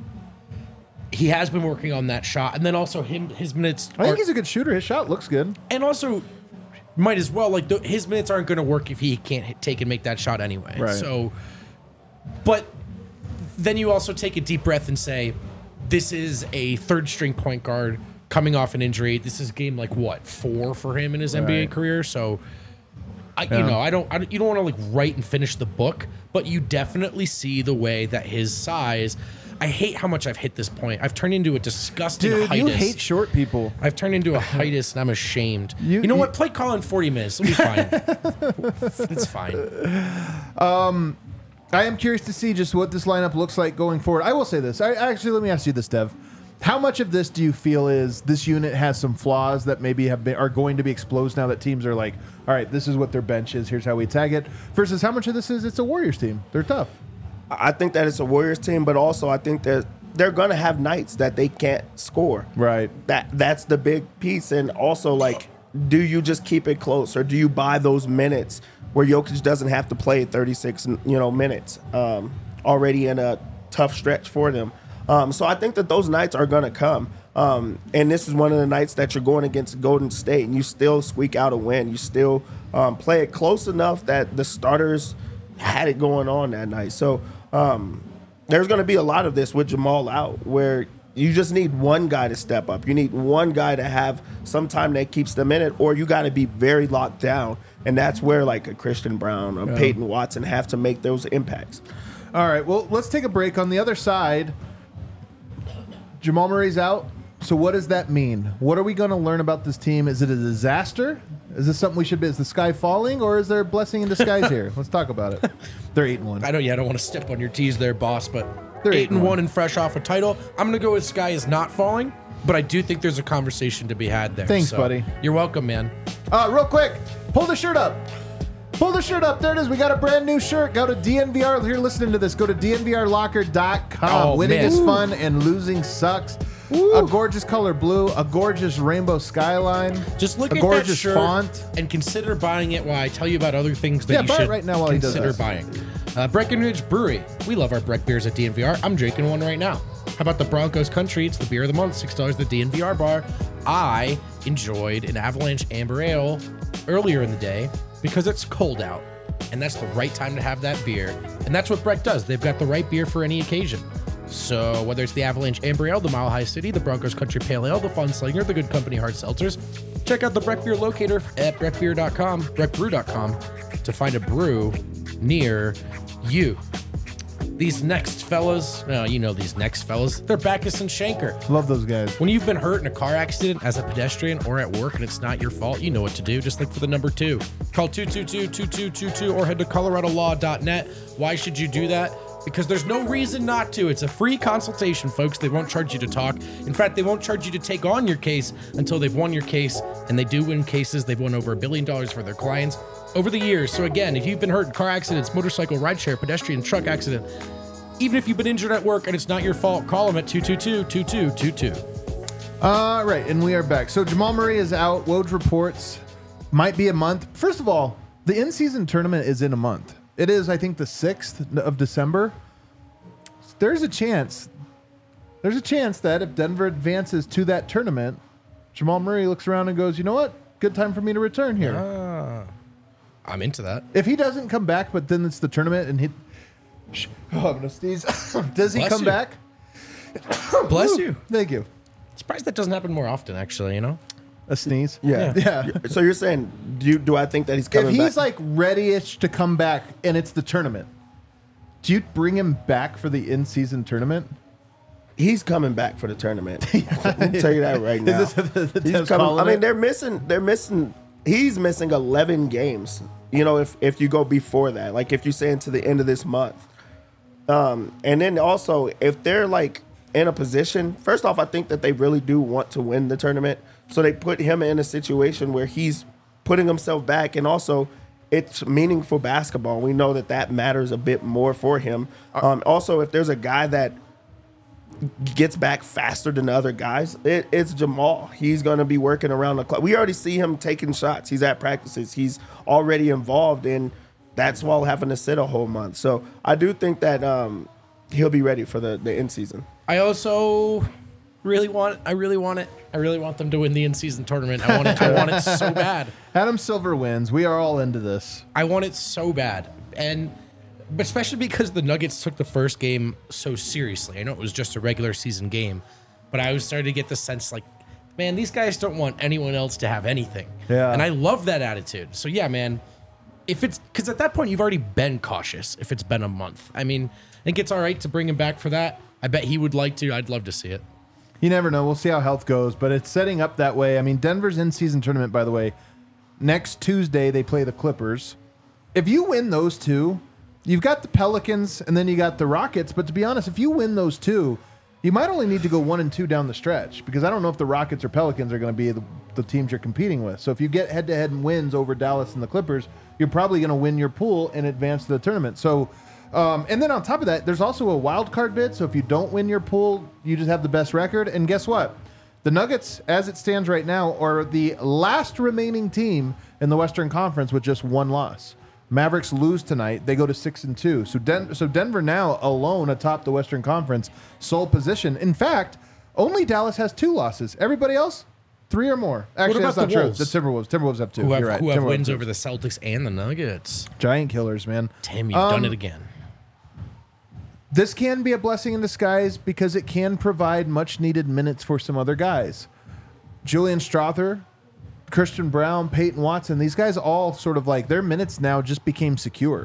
Speaker 2: he has been working on that shot. And then also his minutes.
Speaker 1: I think he's a good shooter. His shot looks good.
Speaker 2: And also, might as well, like, his minutes aren't going to work if he can't take and make that shot anyway.
Speaker 1: Right.
Speaker 2: So, but then you also take a deep breath and say, this is a third string point guard coming off an injury. This is game like what, 4 for him in his NBA career. So, you don't want to like write and finish the book, but you definitely see the way that his size. I hate how much I've hit this point. I've turned into a disgusting heightus.
Speaker 1: You hate short people.
Speaker 2: I've turned into a heightus, and I'm ashamed. You know what? Play Colin 40 minutes. It'll be fine. It's fine.
Speaker 1: I am curious to see just what this lineup looks like going forward. I will say this. Actually, let me ask you this, Dev. How much of this do you feel is this unit has some flaws that maybe are going to be exposed now that teams are like, all right, this is what their bench is, here's how we tag it, versus how much of this is it's a Warriors team? They're tough.
Speaker 3: I think that it's a Warriors team, but also I think that they're going to have nights that they can't score.
Speaker 1: Right. That's
Speaker 3: the big piece. And also, like, do you just keep it close, or do you buy those minutes where Jokic doesn't have to play 36 minutes already in a tough stretch for them? So I think that those nights are going to come. And this is one of the nights that you're going against Golden State, and you still squeak out a win. You still play it close enough that the starters had it going on that night. So there's going to be a lot of this with Jamal out, where you just need one guy to step up. You need one guy to have some time that keeps them in it, or you got to be very locked down. And that's where like a Christian Brown or Peyton Watson have to make those impacts.
Speaker 1: All right, well, let's take a break. On the other side, Jamal Murray's out. So what does that mean? What are we going to learn about this team? Is it a disaster? Is this something we should be? Is the sky falling, or is there a blessing in disguise here? Let's talk about it. They're 8-1.
Speaker 2: I don't want to step on your tees there, boss, but they're 8-1 and fresh off a title. I'm going to go with sky is not falling, but I do think there's a conversation to be had there.
Speaker 1: Thanks, buddy.
Speaker 2: You're welcome, man.
Speaker 1: Real quick, pull the shirt up. Pull the shirt up. There it is. We got a brand new shirt. Go to DNVR. If you're listening to this, go to DNVRlocker.com. Winning is fun and losing sucks. Woo. A gorgeous color blue, a gorgeous rainbow skyline.
Speaker 2: Just look at that shirt font and consider buying it while I tell you about other things that you should
Speaker 1: right now while
Speaker 2: consider buying. Breckenridge Brewery. We love our Breck beers at DNVR. I'm drinking one right now. How about the Broncos Country? It's the beer of the month, $6 at the DNVR bar. I enjoyed an Avalanche Amber Ale earlier in the day because it's cold out, and that's the right time to have that beer. And that's what Breck does. They've got the right beer for any occasion. So whether it's the Avalanche Amber Ale, the Mile High City, the Broncos Country Pale Ale, the Fun Slinger, the Good Company Hard Seltzers, check out the Breck Beer locator at breckbeer.com, breckbrew.com to find a brew near you. These next fellas, these next fellas, they're Backus and Shanker.
Speaker 1: Love those guys.
Speaker 2: When you've been hurt in a car accident as a pedestrian or at work and it's not your fault, you know what to do. Just look for the number 2. Call 222-2222 or head to coloradolaw.net. Why should you do that? because there's no reason not to. It's a free consultation, folks. They won't charge you to talk. In fact, they won't charge you to take on your case until they've won your case, and they do win cases. They've won over $1 billion for their clients over the years. So again, if you've been hurt in car accidents, motorcycle, rideshare, pedestrian, truck accident, even if you've been injured at work and it's not your fault, call them at 222-2222.
Speaker 1: Right, and we are back. So Jamal Murray is out. Woj reports might be a month. First of all, the in-season tournament is in a month. It is, I think, the 6th of December. There's a chance that if Denver advances to that tournament, Jamal Murray looks around and goes, you know what? Good time for me to return here.
Speaker 2: I'm into that.
Speaker 1: If he doesn't come back, but then it's the tournament and I'm going to sneeze. Does he come back?
Speaker 2: Bless you.
Speaker 1: Thank you.
Speaker 2: Surprised that doesn't happen more often, actually, you know?
Speaker 1: A sneeze?
Speaker 3: Yeah. So you're saying, do I think that he's coming back?
Speaker 1: If he's like ready-ish to come back and it's the tournament, do you bring him back for the in-season tournament?
Speaker 3: He's coming back for the tournament. Let me tell you that right now.
Speaker 1: He's coming.
Speaker 3: I mean, they're missing. He's missing 11 games. You know, if you go before that, like if you say into the end of this month, and then also if they're like in a position. First off, I think that they really do want to win the tournament, so they put him in a situation where he's putting himself back, and also it's meaningful basketball. We know that matters a bit more for him. Also, if there's a guy that gets back faster than the other guys, it's Jamal. He's going to be working around the clock. We already see him taking shots. He's at practices. He's already involved, and that's while having to sit a whole month. So I do think that he'll be ready for the end season.
Speaker 2: I also really want it. I really want them to win the in-season tournament. I want it so bad.
Speaker 1: Adam Silver wins. We are all into this.
Speaker 2: I want it so bad. But especially because the Nuggets took the first game so seriously. I know it was just a regular season game, but I was starting to get the sense like, man, these guys don't want anyone else to have anything.
Speaker 1: Yeah.
Speaker 2: And I love that attitude. So yeah, man, because at that point you've already been cautious if it's been a month. I mean, I think it's all right to bring him back for that. I bet he would like to. I'd love to see it.
Speaker 1: You never know. We'll see how health goes, but it's setting up that way. I mean, Denver's in-season tournament, by the way, next Tuesday they play the Clippers. If you win those two, you've got the Pelicans and then you got the Rockets. But to be honest, if you win those two, you might only need to go 1-2 down the stretch, because I don't know if the Rockets or Pelicans are going to be the teams you're competing with. So if you get head-to-head wins over Dallas and the Clippers, you're probably going to win your pool and advance to the tournament. So, and then on top of that, there's also a wild card bid. So if you don't win your pool, you just have the best record. And guess what? The Nuggets, as it stands right now, are the last remaining team in the Western Conference with just one loss. Mavericks lose tonight. They go to 6-2. So Denver now alone atop the Western Conference, sole position. In fact, only Dallas has 2 losses. Everybody else, 3 or more. Actually, that's not true. The Timberwolves. Timberwolves have 2.
Speaker 2: Who have,
Speaker 1: You're right.
Speaker 2: who have wins over the Celtics and the Nuggets.
Speaker 1: Giant killers, man.
Speaker 2: Tim, you've done it again.
Speaker 1: This can be a blessing in disguise because it can provide much-needed minutes for some other guys. Julian Strawther, Christian Brown, Peyton Watson, these guys all sort of like their minutes now just became secure.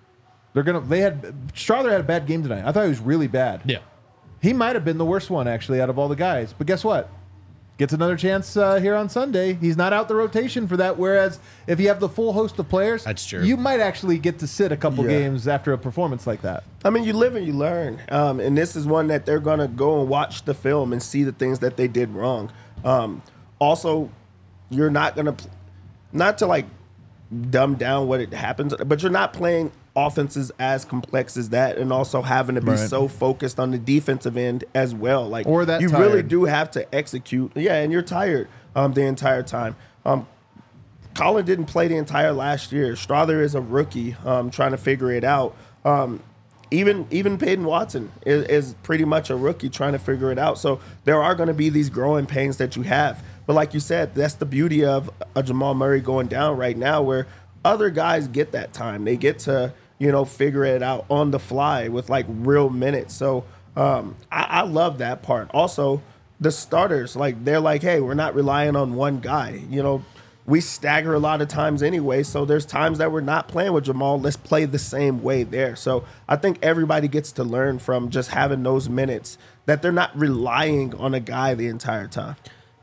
Speaker 1: Strawther had a bad game tonight. I thought he was really bad.
Speaker 2: Yeah.
Speaker 1: He might have been the worst one actually out of all the guys. But guess what? Gets another chance here on Sunday. He's not out the rotation for that. Whereas if you have the full host of players,
Speaker 2: that's true.
Speaker 1: You might actually get to sit a couple games after a performance like that.
Speaker 3: I mean, you live and you learn. And this is one that they're going to go and watch the film and see the things that they did wrong. Also, you're not going to, not to like dumb down what it happens, but you're not playing offenses as complex as that, and also having to be so focused on the defensive end as well. Like,
Speaker 1: or that
Speaker 3: you
Speaker 1: tired.
Speaker 3: Really do have to execute. Yeah, and you're tired the entire time. Colin didn't play the entire last year. Strawther is a rookie trying to figure it out. Even Peyton Watson is pretty much a rookie trying to figure it out. So there are going to be these growing pains that you have. But like you said, that's the beauty of a Jamal Murray going down right now, where other guys get that time. They get to, figure it out on the fly with like real minutes. So I love that part. Also, the starters, like they're like, hey, we're not relying on one guy. We stagger a lot of times anyway. So there's times that we're not playing with Jamal. Let's play the same way there. So I think everybody gets to learn from just having those minutes, that they're not relying on a guy the entire time.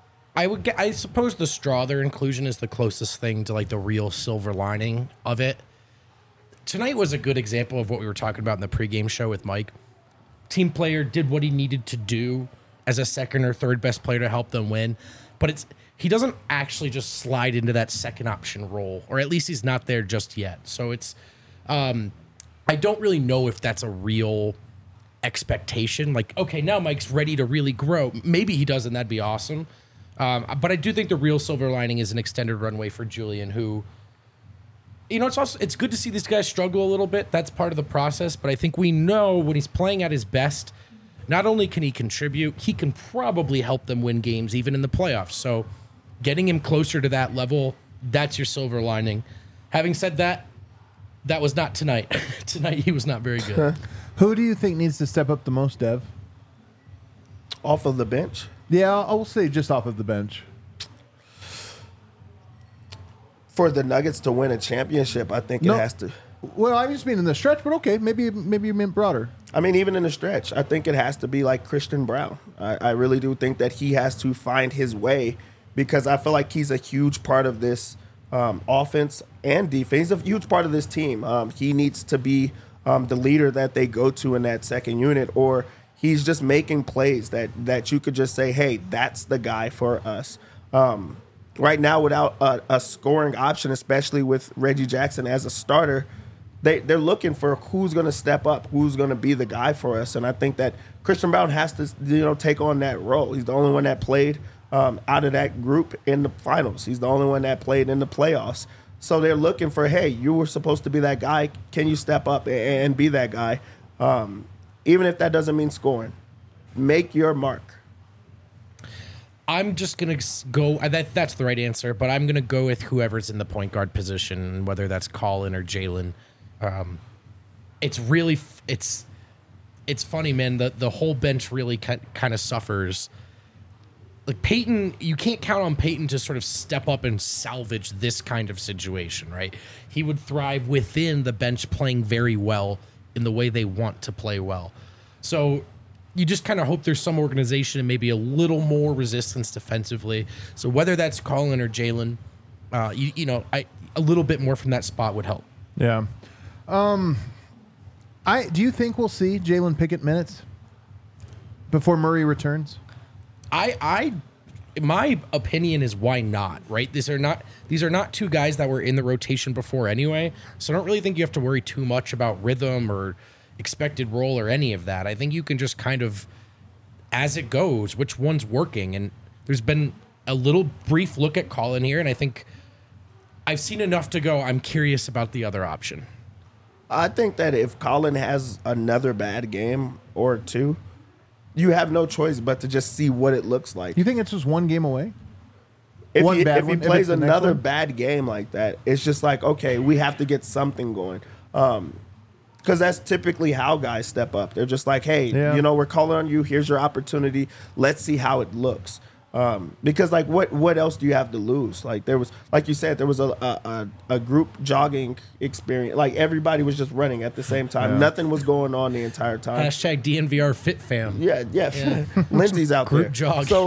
Speaker 2: I suppose the Strawther inclusion is the closest thing to like the real silver lining of it. tonight was a good example of what we were talking about in the pregame show with Mike. Team player did what he needed to do as a second or third best player to help them win, but he doesn't actually just slide into that second option role, or at least he's not there just yet. So it's I don't really know if that's a real expectation. Like, okay, now Mike's ready to really grow. Maybe he does, and that'd be awesome. But I do think the real silver lining is an extended runway for Julian, who, it's good to see this guy struggle a little bit. That's part of the process. But I think we know when he's playing at his best, not only can he contribute, he can probably help them win games even in the playoffs. So getting him closer to that level, that's your silver lining. Having said that, that was not tonight. Tonight he was not very good.
Speaker 1: Who do you think needs to step up the most, Dev?
Speaker 3: Off of the bench?
Speaker 1: Yeah, I will say just off of the bench.
Speaker 3: For the Nuggets to win a championship, I think it has to.
Speaker 1: Well, I just mean in the stretch, but okay, maybe you meant broader.
Speaker 3: I mean, even in the stretch, I think it has to be like Christian Braun. I really do think that he has to find his way, because I feel like he's a huge part of this offense and defense. He's a huge part of this team. He needs to be the leader that they go to in that second unit, or he's just making plays that you could just say, hey, that's the guy for us. Right now, without a scoring option, especially with Reggie Jackson as a starter, they're looking for who's going to step up, who's going to be the guy for us. And I think that Christian Braun has to take on that role. He's the only one that played out of that group in the finals. He's the only one that played in the playoffs. So they're looking for, hey, you were supposed to be that guy. Can you step up and be that guy? Even if that doesn't mean scoring. Make your mark.
Speaker 2: I'm just going to go, that's the right answer, but I'm going to go with whoever's in the point guard position, whether that's Colin or Jalen. It's really, it's funny, man. The whole bench really kind of suffers. Like Peyton, you can't count on Peyton to sort of step up and salvage this kind of situation, right? He would thrive within the bench playing very well in the way they want to play well. So you just kind of hope there's some organization and maybe a little more resistance defensively. So whether that's Colin or Jalen, a little bit more from that spot would help.
Speaker 1: Yeah. Do you think we'll see Jalen Pickett minutes before Murray returns?
Speaker 2: My opinion is why not, right? These are not two guys that were in the rotation before anyway. So I don't really think you have to worry too much about rhythm or expected role or any of that. I think you can just kind of, as it goes, which one's working. And there's been a little brief look at Colin here, and I think I've seen enough to go, I'm curious about the other option.
Speaker 3: I think that if Colin has another bad game or two, you have no choice but to just see what it looks like.
Speaker 1: You think it's just one game away?
Speaker 3: If he plays another bad game like that, it's just like, okay, we have to get something going. Because that's typically how guys step up. They're just like, hey, we're calling on you. Here's your opportunity. Let's see how it looks. Because like what else do you have to lose? Like there was, like you said, there was a group jogging experience. Like everybody was just running at the same time. Nothing was going on the entire time.
Speaker 2: Hashtag DNVR Fit Fam.
Speaker 3: Yeah. Lindsay's out
Speaker 2: group
Speaker 3: there.
Speaker 2: Jog.
Speaker 3: So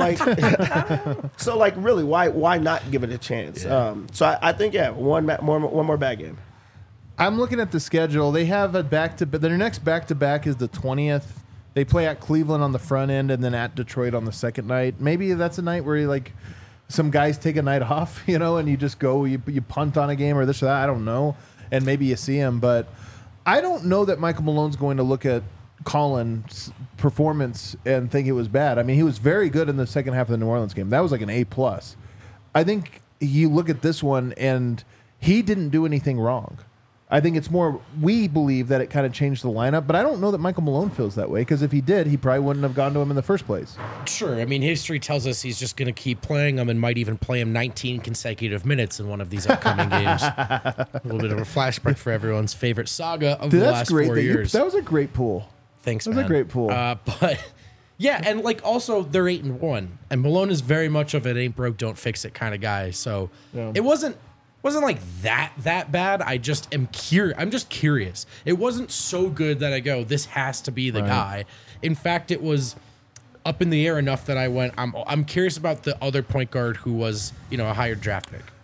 Speaker 3: like, really, why not give it a chance?
Speaker 2: Yeah.
Speaker 3: So I think one more bad game.
Speaker 1: I'm looking at the schedule. They have a their next back-to-back is the 20th. They play at Cleveland on the front end and then at Detroit on the second night. Maybe that's a night where some guys take a night off, and you just go, you punt on a game or this or that. I don't know. And maybe you see him. But I don't know that Michael Malone's going to look at Colin's performance and think it was bad. I mean, he was very good in the second half of the New Orleans game. That was like an A+. I think you look at this one and he didn't do anything wrong. I think it's more, we believe that it kind of changed the lineup, but I don't know that Michael Malone feels that way, because if he did, he probably wouldn't have gone to him in the first place.
Speaker 2: Sure. I mean, history tells us he's just going to keep playing him and might even play him 19 consecutive minutes in one of these upcoming games. A little bit of a flashback for everyone's favorite saga of the last 4 years.
Speaker 1: That was a great pool.
Speaker 2: Thanks, man.
Speaker 1: That was a great pool.
Speaker 2: But yeah, and also they're 8-1, and Malone is very much of an ain't broke, don't fix it kind of guy. So it wasn't like that bad. I'm just curious. It wasn't so good that I go, this has to be the guy. In fact, it was up in the air enough that I went, I'm curious about the other point guard who was, a higher draft pick.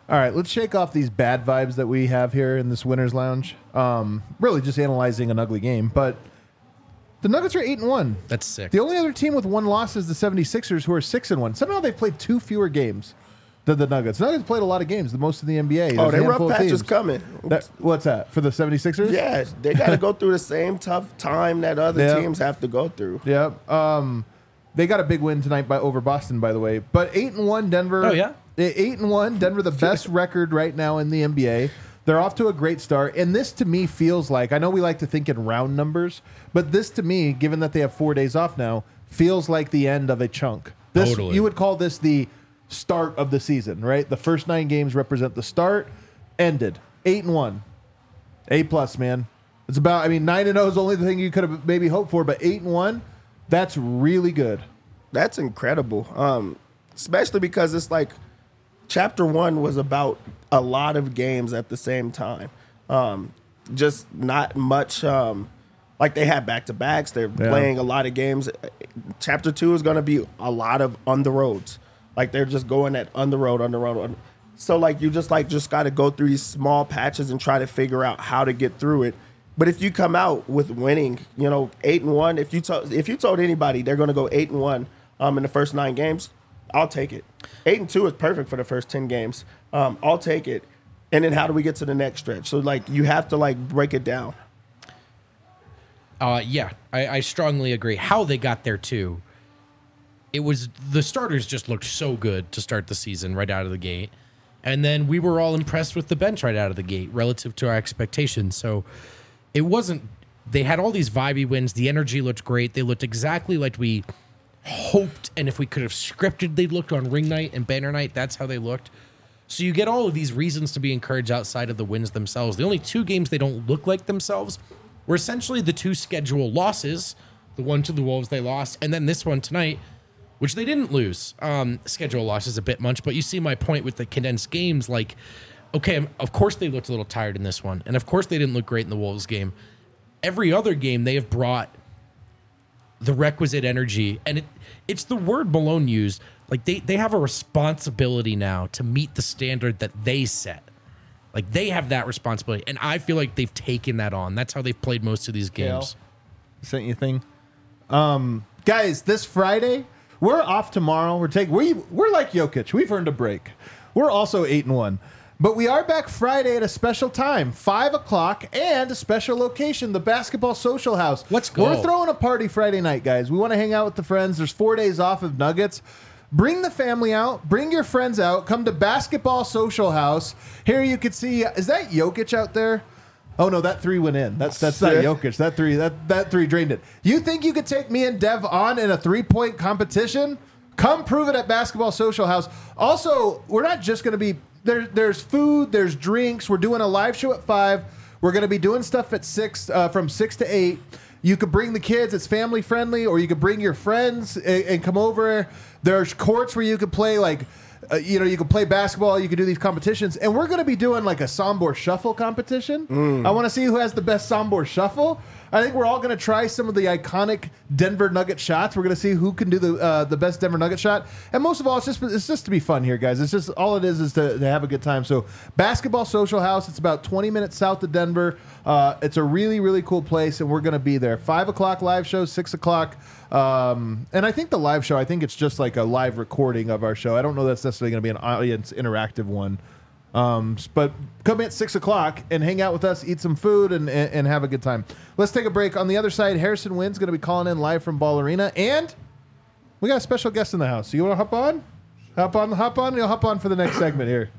Speaker 1: All right, let's shake off these bad vibes that we have here in this Winners Lounge. Really just analyzing an ugly game, but the Nuggets are 8-1.
Speaker 2: That's sick.
Speaker 1: The only other team with one loss is the 76ers, who are 6-1. Somehow they've played 2 fewer games than the Nuggets. The Nuggets played a lot of games, the most in the NBA.
Speaker 3: Oh, their rough patch is coming.
Speaker 1: What's that, for the 76ers?
Speaker 3: Yeah, they got to go through the same tough time that other teams have to go through.
Speaker 1: Yeah. They got a big win tonight over Boston, by the way. But 8-1 Denver.
Speaker 2: Oh, yeah?
Speaker 1: 8-1 Denver, the best record right now in the NBA. They're off to a great start. And this, to me, feels like, I know we like to think in round numbers, but this, to me, given that they have 4 days off now, feels like the end of a chunk.
Speaker 2: Totally.
Speaker 1: You would call this the start of the season, right? The first 9 games represent the start. Ended. 8-1. A+, man. It's about, 9-0 is the only thing you could have maybe hoped for, but 8-1, that's really good.
Speaker 3: That's incredible. Especially because it's like Chapter 1 was about a lot of games at the same time. Just not much. Like they had back-to-backs. They're playing a lot of games. Chapter 2 is going to be a lot of on the roads. Like they're just going at on the road. So like you just got to go through these small patches and try to figure out how to get through it. But if you come out with winning, 8-1, if you told anybody they're going to go 8-1 in the first 9 games, I'll take it. 8-2 is perfect for the first 10 games. I'll take it. And then how do we get to the next stretch? So like you have to break it down.
Speaker 2: Yeah, I strongly agree. How they got there too. It was the starters just looked so good to start the season right out of the gate. And then we were all impressed with the bench right out of the gate relative to our expectations. So it wasn't, they had all these vibey wins. The energy looked great. They looked exactly like we hoped. And if we could have scripted, they looked on ring night and banner night. That's how they looked. So you get all of these reasons to be encouraged outside of the wins themselves. The only 2 games they don't look like themselves were essentially the 2 scheduled losses. The one to the Wolves they lost. And then this one tonight, which they didn't lose. Schedule loss is a bit much, but you see my point with the condensed games. Like, okay, of course they looked a little tired in this one. And of course they didn't look great in the Wolves game. Every other game they have brought the requisite energy. And it's the word Malone used. Like they have a responsibility now to meet the standard that they set. Like they have that responsibility. And I feel like they've taken that on. That's how they've played most of these games.
Speaker 1: Sent you a thing. Guys, this Friday, we're off tomorrow. We're like Jokic. We've earned a break. We're also 8-1. But we are back Friday at a special time, 5 o'clock, and a special location, the Basketball Social House.
Speaker 2: Let's go.
Speaker 1: We're throwing a party Friday night, guys. We want to hang out with the friends. There's 4 days off of Nuggets. Bring the family out. Bring your friends out. Come to Basketball Social House. Here you can see, is that Jokic out there? Oh, no, that 3 went in. That's not Jokic. That 3 drained it. You think you could take me and Dev on in a 3-point competition? Come prove it at Basketball Social House. Also, we're not just going to be... There's food, there's drinks. We're doing a live show at 5. We're going to be doing stuff at 6, from 6 to 8. You could bring the kids. It's family friendly, or you could bring your friends and come over. There's courts where you could play you can play basketball. You can do these competitions, and we're going to be doing like a Sombor Shuffle competition. I want to see who has the best Sombor Shuffle. I think we're all going to try some of the iconic Denver Nugget shots. We're going to see who can do the best Denver Nugget shot, and most of all, it's just to be fun here, guys. It's just all it is to have a good time. So, Basketball Social House. It's about 20 minutes south of Denver. It's a really, really cool place, and we're going to be there. 5 o'clock live show, 6 o'clock. And I think the live show, I think it's just like a live recording of our show. I don't know that's necessarily going to be an audience interactive one. But come at 6 o'clock and hang out with us, eat some food, and have a good time. Let's take a break. On the other side, Harrison Wynn's going to be calling in live from Ball Arena, and we got a special guest in the house. So you want to hop on? Hop on. You'll hop on for the next segment here.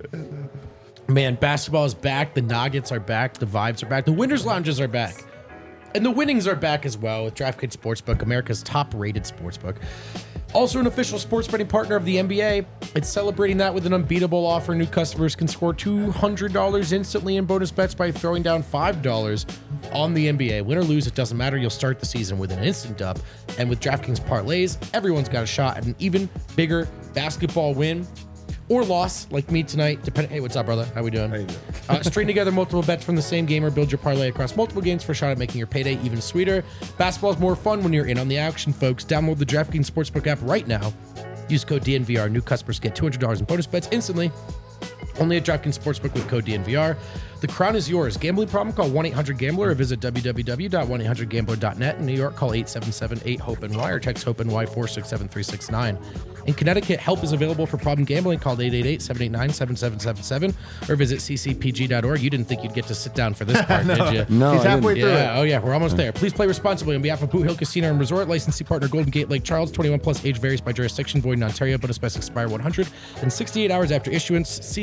Speaker 2: Man, basketball is back. The Nuggets are back. The vibes are back. The Winners Lounges are back. And the winnings are back as well with DraftKings Sportsbook, America's top-rated sportsbook. Also an official sports betting partner of the NBA. It's celebrating that with an unbeatable offer. New customers can score $200 instantly in bonus bets by throwing down $5 on the NBA. Win or lose, it doesn't matter. You'll start the season with an instant dub. And with DraftKings parlays, everyone's got a shot at an even bigger basketball win or loss, like me tonight. Hey, what's up, brother? How we doing?
Speaker 1: How you doing?
Speaker 2: String together multiple bets from the same game or build your parlay across multiple games for a shot at making your payday even sweeter. Basketball is more fun when you're in on the action, folks. Download the DraftKings Sportsbook app right now. Use code DNVR. New customers get $200 in bonus bets instantly Only at DraftKings Sportsbook with code DNVR. The crown is yours. Gambling problem? Call 1-800-GAMBLER or visit www.1800gambler.net. In New York, call 877-8-HOPE-NY or text HOPE-NY 467-369. In Connecticut, help is available for problem gambling. Call 888-789-7777 or visit ccpg.org. You didn't think you'd get to sit down for this part, did you?
Speaker 4: No,
Speaker 1: He's halfway through it.
Speaker 2: Oh, yeah, we're almost there. Please play responsibly on behalf of Boot Hill Casino and Resort. Licensee partner Golden Gate Lake Charles. 21 plus. Age varies by jurisdiction. Void in Ontario. Bonus bets expire 168 hours after issuance. See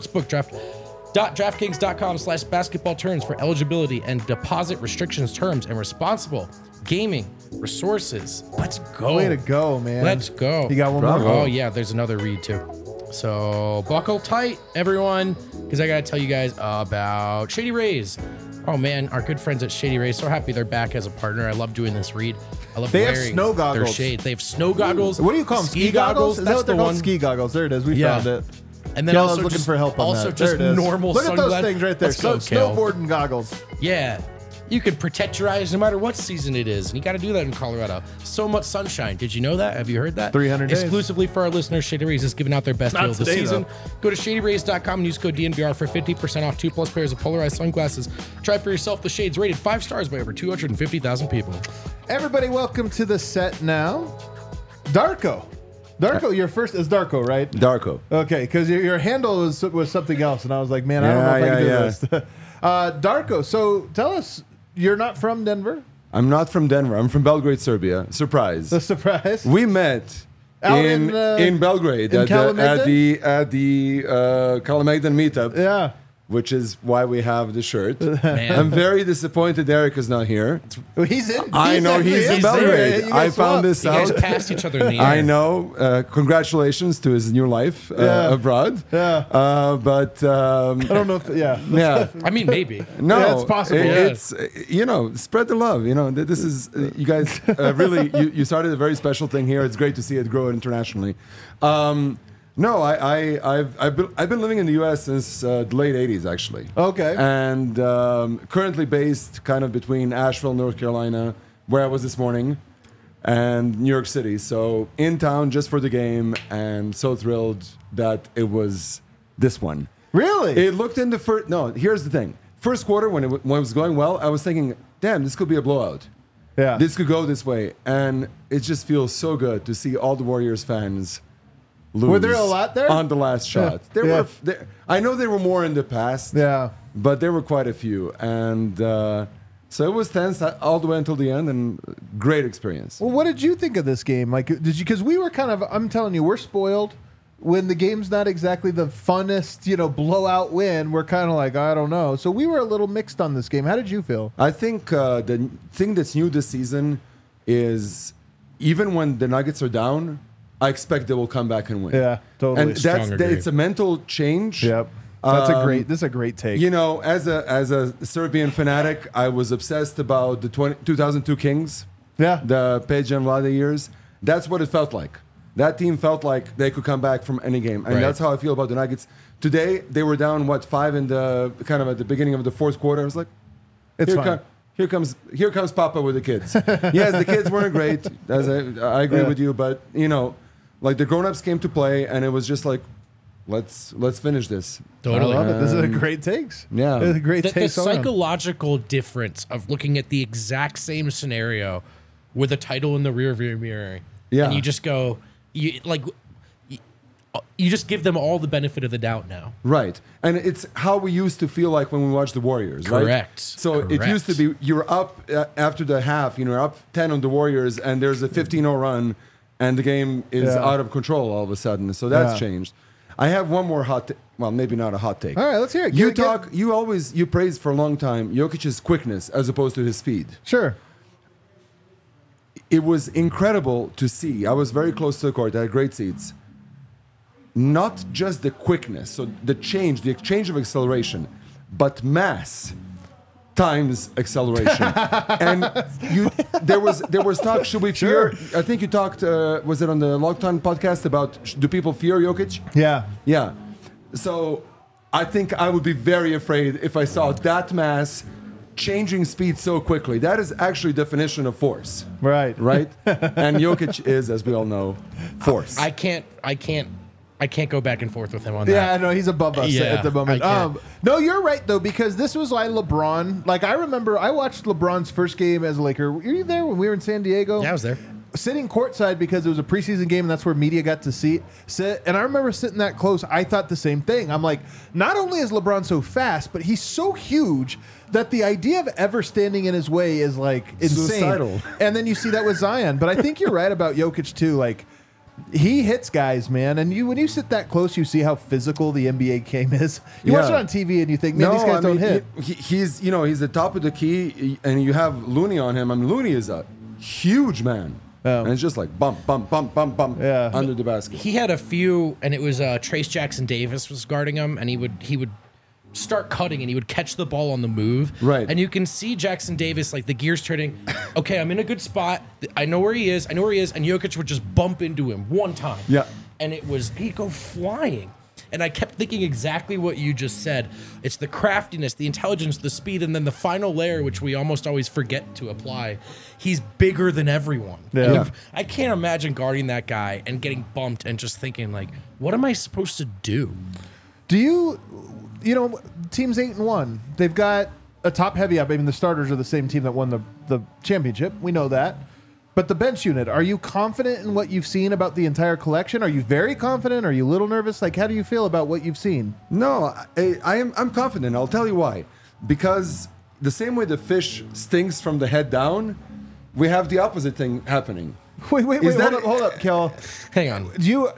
Speaker 2: sportsbook.draftkings.com/basketball terms for eligibility and deposit restrictions, terms, and responsible gaming resources. Let's go.
Speaker 1: Way to go, man.
Speaker 2: Let's go.
Speaker 1: You got one
Speaker 4: Bravo.
Speaker 1: more?
Speaker 2: Oh, yeah, there's another read too. So buckle tight, everyone, because I got to tell you guys about Shady Rays. Oh, man, our good friends at Shady Rays. So happy they're back as a partner. I love doing this read. I love
Speaker 1: They have
Speaker 2: wearing
Speaker 1: snow
Speaker 2: their
Speaker 1: goggles.
Speaker 2: shade. They have snow goggles.
Speaker 1: What do you call them? Ski goggles? Is that
Speaker 2: That's
Speaker 1: what they're
Speaker 2: the
Speaker 1: called?
Speaker 2: one.
Speaker 1: Ski goggles. There it is. We
Speaker 2: Yeah.
Speaker 1: found it.
Speaker 2: And then
Speaker 1: Kel
Speaker 2: also
Speaker 1: is looking
Speaker 2: just,
Speaker 1: for help on
Speaker 2: also
Speaker 1: that.
Speaker 2: just
Speaker 1: There it is.
Speaker 2: normal
Speaker 1: Look at those
Speaker 2: sunglasses.
Speaker 1: things right there.
Speaker 2: Let's go,
Speaker 1: So,
Speaker 2: Kel.
Speaker 1: snowboarding goggles.
Speaker 2: Yeah. You can protect your eyes no matter what season it is. And you got to do that in Colorado. So much sunshine. Did you know that? Have you heard that?
Speaker 1: 300 days.
Speaker 2: Exclusively for our listeners, Shady Rays is giving out their best
Speaker 1: Not
Speaker 2: deal of the
Speaker 1: today,
Speaker 2: season. Go to shadyrays.com and use code DNVR for 50% off 2+ pairs of polarized sunglasses. Try for yourself the shades rated 5 stars by over 250,000 people.
Speaker 1: Everybody, welcome to the set now. Darko. Darko, your first is Darko, right?
Speaker 4: Darko.
Speaker 1: Okay, because your handle was something else, and I was like, man, I don't know if I can do this. Darko, so tell us, you're not from Denver?
Speaker 4: I'm not from Denver. I'm from Belgrade, Serbia. Surprise.
Speaker 1: The surprise?
Speaker 4: We met
Speaker 1: Out
Speaker 4: in Belgrade
Speaker 1: in
Speaker 4: at the Kalamegdan meetup,
Speaker 1: Yeah.
Speaker 4: which is why we have the shirt.
Speaker 2: Man.
Speaker 4: I'm very disappointed Eric is not here.
Speaker 1: Well, he's in.
Speaker 4: I know
Speaker 1: actually
Speaker 4: he's in
Speaker 1: there.
Speaker 4: Belgrade.
Speaker 1: You guys
Speaker 4: I found
Speaker 1: swapped.
Speaker 4: this
Speaker 2: You guys
Speaker 4: out.
Speaker 2: passed each other in the air.
Speaker 4: I know. Congratulations to his new life
Speaker 1: Yeah.
Speaker 4: abroad.
Speaker 1: Yeah.
Speaker 4: But
Speaker 1: I don't know if, yeah.
Speaker 4: yeah.
Speaker 2: I mean, maybe.
Speaker 4: No,
Speaker 1: Yeah, it's possible.
Speaker 4: It's spread the love. This is you guys really. You started a very special thing here. It's great to see it grow internationally. No, I've been living in the U.S. since the late '80s, actually.
Speaker 1: Okay.
Speaker 4: And currently based kind of between Asheville, North Carolina, where I was this morning, and New York City. So in town just for the game, and so thrilled that it was this one.
Speaker 1: Really?
Speaker 4: It looked in the first. No, here's the thing. First quarter, when it was going well, I was thinking, damn, this could be a blowout.
Speaker 1: yeah.
Speaker 4: This could go this way. And it just feels so good to see all the Warriors fans lose.
Speaker 1: Were there a lot there?
Speaker 4: On the last shot. There
Speaker 1: Yeah.
Speaker 4: were. I know there were more in the past.
Speaker 1: Yeah.
Speaker 4: But there were quite a few. And so it was tense all the way until the end, and great experience.
Speaker 1: Well, what did you think of this game? Like, did you? Because we were kind of. I'm telling you, we're spoiled. When the game's not exactly the funnest, blowout win, we're kind of like, I don't know. So we were a little mixed on this game. How did you feel?
Speaker 4: I think the thing that's new this season is even when the Nuggets are down, I expect they will come back and win.
Speaker 1: Yeah, totally.
Speaker 4: And
Speaker 2: Strong agree.
Speaker 4: it's a mental change.
Speaker 1: Yep. That's this is a great take.
Speaker 4: As a Serbian fanatic, I was obsessed about the 2002 Kings.
Speaker 1: Yeah.
Speaker 4: The Peja and Vlade years. That's what it felt like. That team felt like they could come back from any game, and
Speaker 2: Right.
Speaker 4: that's how I feel about the Nuggets. Today they were down 5 in the kind of at the beginning of the fourth quarter. I was like,
Speaker 1: It's fine.
Speaker 4: here comes Papa with the kids. Yes, the kids weren't great. I agree
Speaker 1: Yeah.
Speaker 4: with you, but like the grown-ups came to play, and it was just like, let's finish this.
Speaker 2: Totally.
Speaker 1: I love it. This is a great takes.
Speaker 4: Yeah.
Speaker 1: This is a great
Speaker 2: The
Speaker 1: takes. all around.
Speaker 2: psychological difference of looking at the exact same scenario with a title in the rearview mirror.
Speaker 4: Yeah.
Speaker 2: And you just go, you just give them all the benefit of the doubt now.
Speaker 4: Right. And it's how we used to feel like when we watched the Warriors, right?
Speaker 2: Correct.
Speaker 4: So it used to be you're up after the half, you're up 10 on the Warriors, and there's a 15-0 run, and the game is
Speaker 1: Yeah.
Speaker 4: out of control all of a sudden. So that's
Speaker 1: Yeah.
Speaker 4: changed. I have one more well, maybe not a hot take.
Speaker 1: All right, let's hear it.
Speaker 4: You praise for a long time Jokic's quickness as opposed to his speed.
Speaker 1: Sure.
Speaker 4: It was incredible to see. I was very close to the court. I had great seats. Not just the quickness, so the exchange of acceleration, but mass times acceleration. And there was talk. Should we fear? I think you talked. Was it on the Lockdown podcast about do people fear Jokic?
Speaker 1: Yeah.
Speaker 4: Yeah. So I think I would be very afraid if I saw that mass changing speed so quickly. That is actually definition of force,
Speaker 1: Right.
Speaker 4: right? And Jokic is, as we all know, force.
Speaker 2: I can't I can't go back and forth with him on that.
Speaker 1: Yeah, no, he's above us at the moment. No, you're right though, because this was like LeBron. Like I remember, I watched LeBron's first game as a Laker. Were you there when we were in San Diego?
Speaker 2: Yeah, I was there.
Speaker 1: Sitting courtside because it was a preseason game and that's where media got to sit. And I remember sitting that close. I thought the same thing. I'm like, not only is LeBron so fast, but he's so huge that the idea of ever standing in his way is like insane.
Speaker 4: Suicidal.
Speaker 1: And then you see that with Zion. But I think you're right about Jokic too. Like he hits guys, man. And when you sit that close, you see how physical the NBA game is. You watch it on TV and you think, man, these guys don't hit.
Speaker 4: He's the top of the key, and you have Looney on him. I mean, Looney is a huge man. And it's just like bump under the basket.
Speaker 2: He had a few, and it was Trace Jackson Davis was guarding him, and he would start cutting, and he would catch the ball on the move.
Speaker 4: Right.
Speaker 2: And you can see Jackson Davis, like the gears turning. Okay, I'm in a good spot. I know where he is. And Jokic would just bump into him one time.
Speaker 4: Yeah.
Speaker 2: And he'd go flying. And I kept thinking exactly what you just said. It's the craftiness, the intelligence, the speed, and then the final layer, which we almost always forget to apply. He's bigger than everyone.
Speaker 1: Yeah.
Speaker 2: I can't imagine guarding that guy and getting bumped and just thinking, like, what am I supposed to do?
Speaker 1: Do you team's 8-1. They've got a top heavy up. I mean, the starters are the same team that won the championship. We know that. But the bench unit, are you confident in what you've seen about the entire collection? Are you very confident? Are you a little nervous? Like, how do you feel about what you've seen?
Speaker 4: No, I'm confident. I'll tell you why. Because the same way the fish stinks from the head down, we have the opposite thing happening.
Speaker 1: Wait, hold up, Kel.
Speaker 2: Hang on.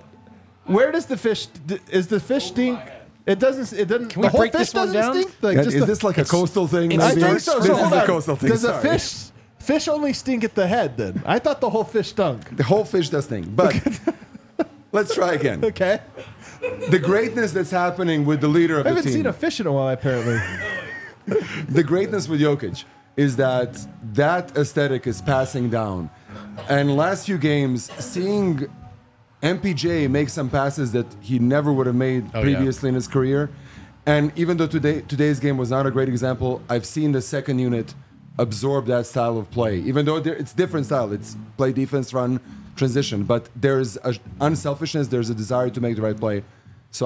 Speaker 1: Where does the fish? Is the fish stink? It doesn't.
Speaker 2: Can we break this one down?
Speaker 1: Stink? Like,
Speaker 4: is this like a coastal thing?
Speaker 1: I think so.
Speaker 4: This is a coastal thing.
Speaker 1: Does the fish only stink at the head? Then I thought the whole fish stunk.
Speaker 4: The whole fish does stink. But let's try again.
Speaker 1: Okay.
Speaker 4: The greatness that's happening with the leader of the team.
Speaker 1: I haven't seen a fish in a while, apparently.
Speaker 4: The greatness with Jokic is that aesthetic is passing down. And last few games, seeing MPJ make some passes that he never would have made previously in his career. And even though today's game was not a great example, I've seen the second unit absorb that style of play. Even though it's different style. It's play, defense, run, transition. But there's unselfishness. There's a desire to make the right play. So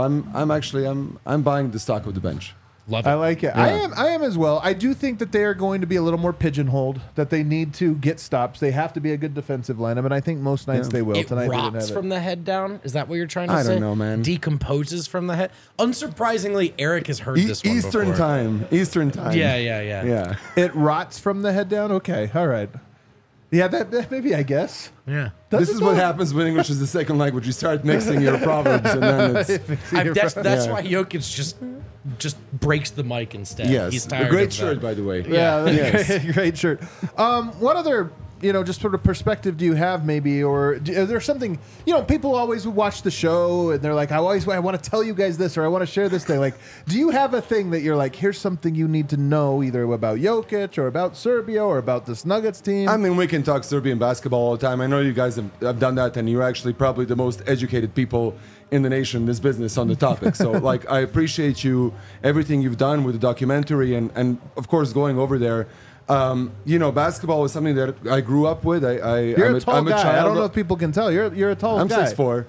Speaker 4: I'm buying the stock of the bench.
Speaker 2: Love it.
Speaker 1: I like it. Yeah. I am as well. I do think that they are going to be a little more pigeonholed, that they need to get stops. They have to be a good defensive lineup, and I think most nights they will.
Speaker 2: It
Speaker 1: Tonight they didn't
Speaker 2: rots
Speaker 1: have
Speaker 2: from the head down? Is that what you're trying to say?
Speaker 4: I don't know, man.
Speaker 2: Decomposes from the head? Unsurprisingly, Eric has heard this one
Speaker 4: Eastern
Speaker 2: before.
Speaker 4: Eastern time.
Speaker 2: Yeah.
Speaker 1: It rots from the head down? Okay, all right. Yeah, that maybe, I guess.
Speaker 2: Yeah.
Speaker 4: This is what happens when English is the second language. You start mixing your proverbs, and then it's...
Speaker 2: That's why Jokic just breaks the mic instead.
Speaker 4: Yes.
Speaker 2: He's tired
Speaker 4: A great
Speaker 2: of
Speaker 4: shirt,
Speaker 2: that.
Speaker 4: by the way.
Speaker 1: Yeah,
Speaker 4: Yes.
Speaker 1: great shirt. What other, just sort of perspective do you have maybe, or is there something, people always watch the show and they're like, I want to tell you guys this, or I want to share this thing. Like, do you have a thing that you're like, here's something you need to know either about Jokic or about Serbia or about this Nuggets team?
Speaker 4: I mean, we can talk Serbian basketball all the time. I know you guys have done that, and you're actually probably the most educated people in the nation, in this business, on the topic. So, I appreciate everything you've done with the documentary, and of course, going over there. Basketball is something that I grew up with.
Speaker 1: You're a tall guy.
Speaker 4: child.
Speaker 1: I don't know if people can tell. You're a tall guy.
Speaker 4: I'm 6'4".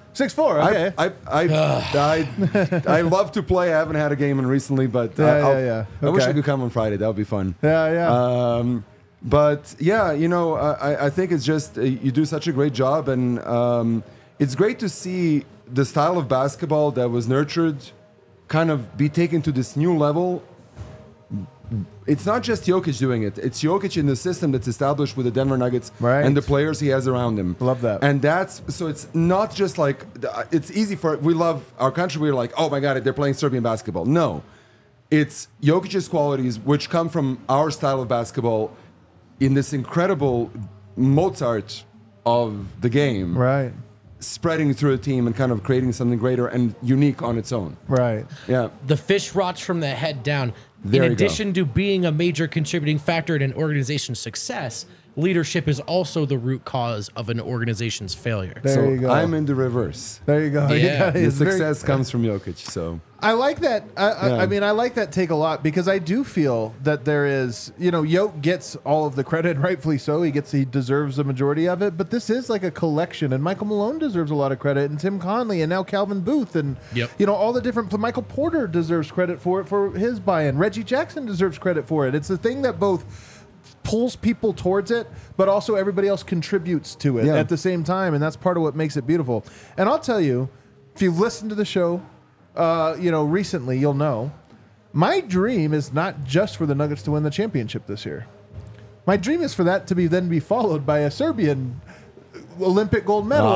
Speaker 1: 6'4", okay.
Speaker 4: I love to play. I haven't had a game in recently, but I wish I could come on Friday. That would be fun.
Speaker 1: Yeah.
Speaker 4: But yeah, I think it's just you do such a great job, and it's great to see the style of basketball that was nurtured kind of be taken to this new level. It's not just Jokic doing it. It's Jokic in the system that's established with the Denver Nuggets and the players he has around him.
Speaker 1: Love that.
Speaker 4: And so it's not just like, it's easy we love our country. We're like, oh my God, they're playing Serbian basketball. No. It's Jokic's qualities, which come from our style of basketball in this incredible Mozart of the game.
Speaker 1: Right.
Speaker 4: Spreading through a team and kind of creating something greater and unique on its own.
Speaker 1: Right.
Speaker 4: Yeah.
Speaker 2: The fish rots from the head down.
Speaker 4: There
Speaker 2: in
Speaker 4: you go.
Speaker 2: addition to being a major contributing factor in an organization's success, leadership is also the root cause of an organization's failure.
Speaker 1: There you go.
Speaker 4: I'm in the reverse.
Speaker 1: There you go.
Speaker 2: Yeah.
Speaker 4: The success comes from Jokic. So
Speaker 1: I like that. I mean, I like that take a lot because I do feel that there is, Yoke gets all of the credit, rightfully so. He deserves a majority of it. But this is like a collection, and Michael Malone deserves a lot of credit, and Tim Conley, and now Calvin Booth, and all the different. Michael Porter deserves credit for it for his buy-in. Reggie Jackson deserves credit for it. It's the thing that both pulls people towards it, but also everybody else contributes to it at the same time, and that's part of what makes it beautiful. And I'll tell you, if you've listened to the show, recently, you'll know, my dream is not just for the Nuggets to win the championship this year. My dream is for that to be followed by a Serbian Olympic gold medal.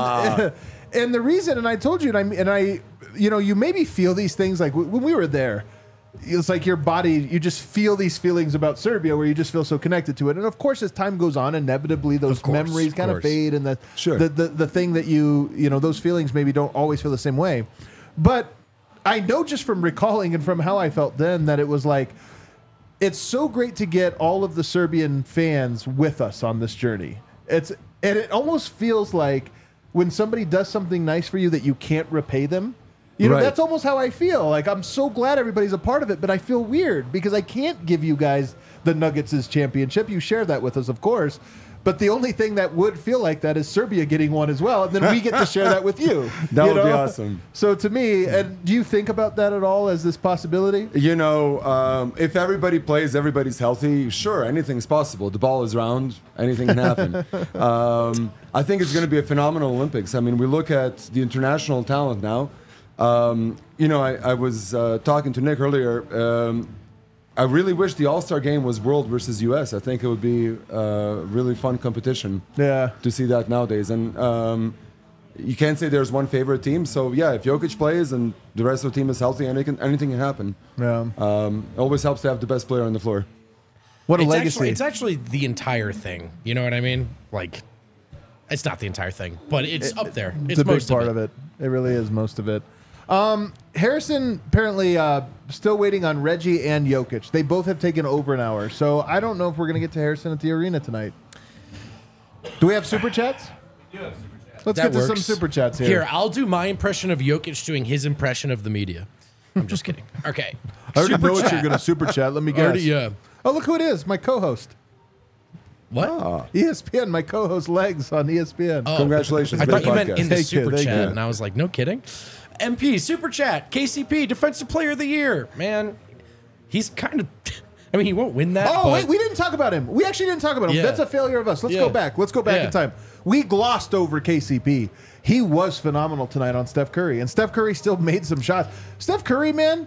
Speaker 1: And the reason, and I told you, you maybe feel these things like when we were there. It's like your body, you just feel these feelings about Serbia where you just feel so connected to it. And of course, as time goes on, inevitably those memories kind of fade, and the thing that those feelings maybe don't always feel the same way. But I know just from recalling and from how I felt then that it was like, it's so great to get all of the Serbian fans with us on this journey. And it almost feels like when somebody does something nice for you that you can't repay them. That's almost how I feel. Like, I'm so glad everybody's a part of it, but I feel weird because I can't give you guys the Nuggets' championship. You share that with us, of course. But the only thing that would feel like that is Serbia getting one as well, and then we get to share that with you.
Speaker 4: That would be awesome.
Speaker 1: So to me, and do you think about that at all as this possibility?
Speaker 4: If everybody plays, everybody's healthy, sure, anything's possible. The ball is round, anything can happen. I think it's going to be a phenomenal Olympics. I mean, we look at the international talent now. I was talking to Nick earlier. I really wish the All-Star game was World versus U.S. I think it would be a really fun competition to see that nowadays. And you can't say there's one favorite team. So, if Jokic plays and the rest of the team is healthy, anything can happen. Yeah. It always helps to have the best player on the floor.
Speaker 1: What a legacy.
Speaker 2: It's actually the entire thing. You know what I mean? Like, it's not the entire thing, but it's up there.
Speaker 1: It's a big part of it. It really is most of it. Harrison apparently still waiting on Reggie and Jokic. They both have taken over an hour, so I don't know if we're going to get to Harrison at the arena tonight. Do we have super chats?
Speaker 5: Yeah, super chats.
Speaker 1: Let's get to some super chats here.
Speaker 2: Here, I'll do my impression of Jokic doing his impression of the media. I'm just kidding. Okay.
Speaker 1: I already know what you're going to super chat. Let me guess.
Speaker 2: Yeah.
Speaker 1: Oh, look who it is. My co-host.
Speaker 2: What?
Speaker 1: ESPN, my co-host Legs on ESPN.
Speaker 2: Oh,
Speaker 4: congratulations.
Speaker 2: I thought you meant
Speaker 4: podcast.
Speaker 2: in the
Speaker 1: Thank you,
Speaker 2: super
Speaker 1: thank
Speaker 2: chat,
Speaker 1: you.
Speaker 2: and I was like, no kidding. MP, super chat, KCP, Defensive Player of the Year. Man, he's kind of... I mean, he won't win that.
Speaker 1: Oh, wait, we didn't talk about him. We actually didn't talk about him.
Speaker 2: Yeah.
Speaker 1: That's a failure of us. Let's go back. Let's go back
Speaker 2: Yeah.
Speaker 1: in time. We glossed over KCP. He was phenomenal tonight on Steph Curry, and Steph Curry still made some shots. Steph Curry, man,